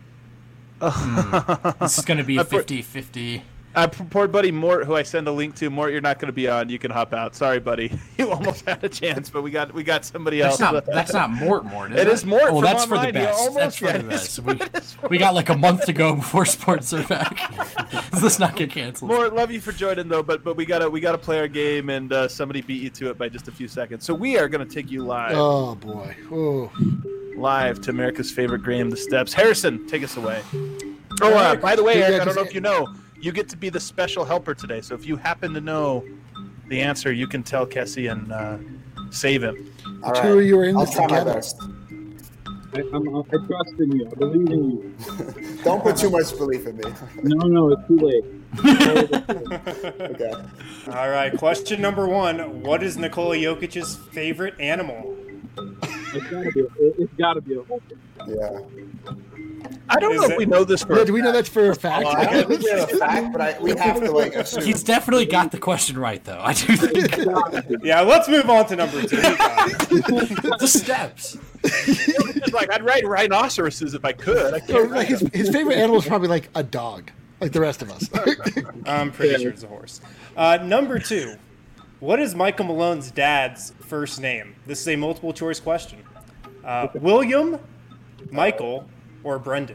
This is going to be a
I put-
fifty-fifty.
Uh, poor buddy Mort, who I send a link to. Mort, you're not going to be on. You can hop out. Sorry, buddy. You almost had a chance, but we got we got somebody
That's
else.
not that's not Mort Mort, is
It
it?
is Mort
Oh,
from
that's for
online.
the
You
best.
almost-
That's for
yeah,
the
it
best.
is-
We,
it is for
we got like a month to go before sports are back. Let's not get canceled.
Mort, love you for joining though, but but we gotta we gotta play our game, and uh, somebody beat you to it by just a few seconds. So we are gonna take you live,
Oh boy. Oh.
live to America's favorite game, the steps. Harrison, take us away. Oh, uh, by the way,
Yeah,
Eric, I don't
'cause
know if
it-
you know, you get to be the special helper today. So if you happen to know the answer, you can tell Kessie and uh, save him.
All
Two of you are in
I'll
this
try my
together.
best.
I, I'm, I trust in you. I believe in you.
Don't put too much belief in me.
No, no, it's too late.
Okay.
All right, question number one. What is Nikola Jokic's favorite animal?
It's gotta be. A, it, it's gotta be a whole thing.
Yeah.
I don't
Is
know if
it-
we know this for
Yeah, do we know that's for a fact?
Well, I don't think we have a fact, but I, we have to like assume.
He's definitely got the question right, though. I do think
Yeah, let's move on to number two. You got it.
the steps.
It's like I'd write rhinoceroses if I could. I
So,
can't
like,
write
his,
them.
his favorite animal is probably like a dog, like the rest of us.
I'm pretty sure it's a horse. Uh, number two. What is Michael Malone's dad's first name? This is a multiple choice question. Uh, William, Michael, or Brendan?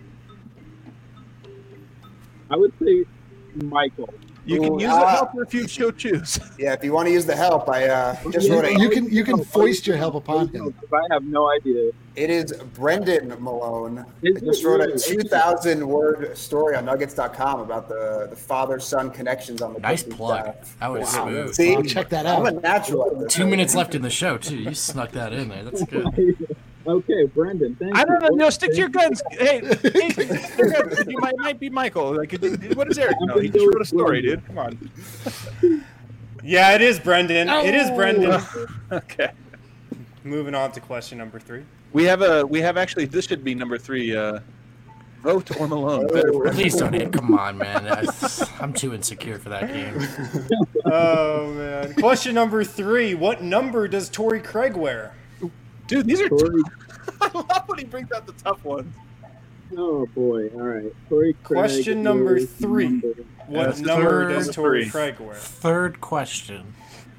I would say Michael.
You can
Ooh,
use
ah.
the helper if you so choose.
Yeah, if you want to use the help, I uh, just wrote
you
it.
can you can foist your help upon him.
If I have no idea.
It is Brendan Malone.
Is
I just
it
wrote a
really?
two thousand word story on Nuggets dot com about the, the father-son connections on the
Nice
coaching
plug.
staff.
That was smooth.
See,
I'll check that
I'm a
out.
natural at this.
Two minutes left in the show, too. You snuck that in there. That's good.
Okay, Brendan, thank
I don't know.
you.
No, stick to your guns. Hey, hey, stick to your guns. You might, might be Michael. Like, what does Eric know? He just wrote a story, dude. Come on.
Yeah, it is Brendan. It is Brendan.
Okay.
Moving on to question number three.
We have a. We have actually. This should be number three. Uh, vote or Malone. Better for-
Please don't hit. Come on, man. That's- I'm too insecure for that game.
Oh, man. Question number three. What number does Torrey Craig wear?
Dude, these are.
Torrey-
I love when he brings out the tough ones.
Oh boy! All right. Torrey Craig
Question number
is
three.
number-
What
That's
number
third
does Torrey
three.
Craig wear?
Third question.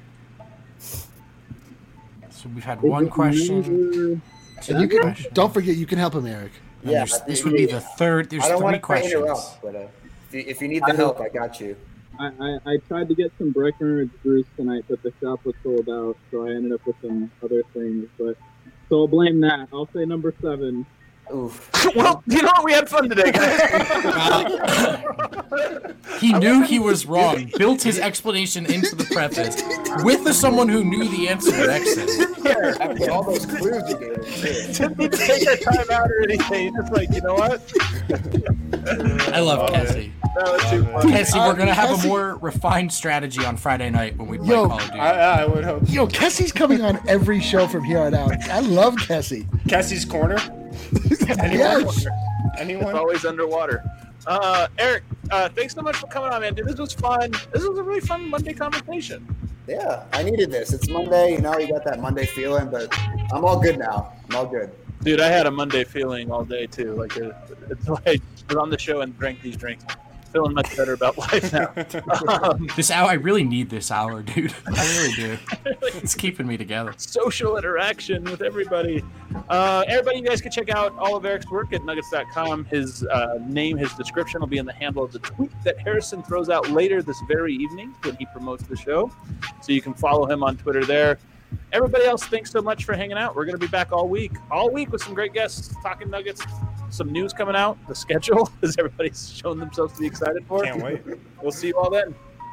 So we've had
Is
one
it
question.
number-
Two
And you can
questions.
don't forget you can help him, Eric.
And
Yeah,
there's- this would be the third. There's
I don't
three
want to
questions.
interrupt, but uh, if, you, if you need the help, I got you.
I, I, I tried to get some Breckenridge brews tonight, but the shop was sold out, so I ended up with some other things. But so I'll blame that. I'll say number seven.
Oof.
Well, you know what? We had fun today, guys.
He knew he was wrong. Built his explanation into the preface with the someone who knew the answer at exit.
After all those clues you gave him, too.
Didn't need to take our time out or anything. Just like, you know what?
I love Cassie.
That was too fun.
Cassie, we're gonna have a
Cassie-
more refined strategy on Friday night when we play
Yo,
Call of Duty.
I, I would hope.
Yo, Kessie's coming on every show from here on out. I love Kessie.
Cassie's Corner? Anyone?
Yes.
Anyone?
It's always underwater. Uh, Eric, uh, thanks so much for coming on, man. Dude, this was fun. This was a really fun Monday conversation.
Yeah, I needed this. It's Monday, you know, you got that Monday feeling, but I'm all good now. I'm all good.
Dude, I had a Monday feeling all day too. Like uh it's like I was on the show and drank these drinks. Feeling much better about life now. Um,
This hour, I really need this hour, dude. I really do. It's keeping me together.
social interaction with everybody. Uh, everybody, you guys can check out all of Eric's work at nuggets dot com. His uh, name, his description will be in the handle of the tweet that Harrison throws out later this very evening when he promotes the show. So you can follow him on Twitter there. Everybody else, thanks so much for hanging out. We're going to be back all week, all week with some great guests talking Nuggets. Some news coming out, the schedule, as everybody's shown themselves to be excited for.
Can't wait.
We'll see you all then.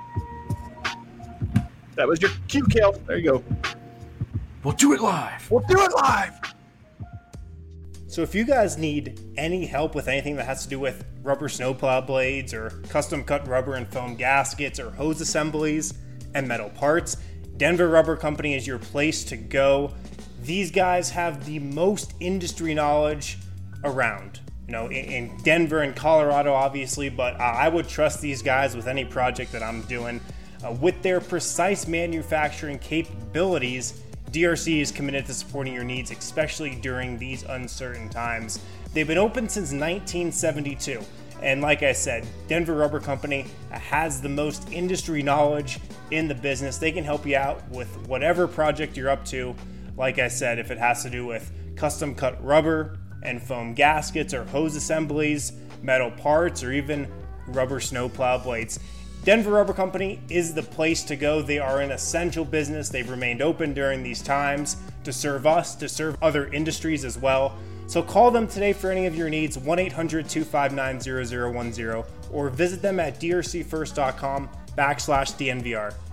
That was your cue, Kale. There you go.
We'll do it live.
We'll do it live.
So if you guys need any help with anything that has to do with rubber snowplow blades or custom cut rubber and foam gaskets or hose assemblies and metal parts, Denver Rubber Company is your place to go. These guys have the most industry knowledge around. You know, in, in Denver and Colorado, obviously, but uh, I would trust these guys with any project that I'm doing. Uh, with their precise manufacturing capabilities, D R C is committed to supporting your needs, especially during these uncertain times. They've been open since nineteen seventy-two, and like I said, Denver Rubber Company has the most industry knowledge in the business. They can help you out with whatever project you're up to. Like I said, if it has to do with custom cut rubber and foam gaskets or hose assemblies, metal parts, or even rubber snowplow blades, Denver Rubber Company is the place to go. They are an essential business. They've remained open during these times to serve us, to serve other industries as well. So call them today for any of your needs, one eight hundred two five nine zero zero one zero, or visit them at drcfirst.com backslash DNVR.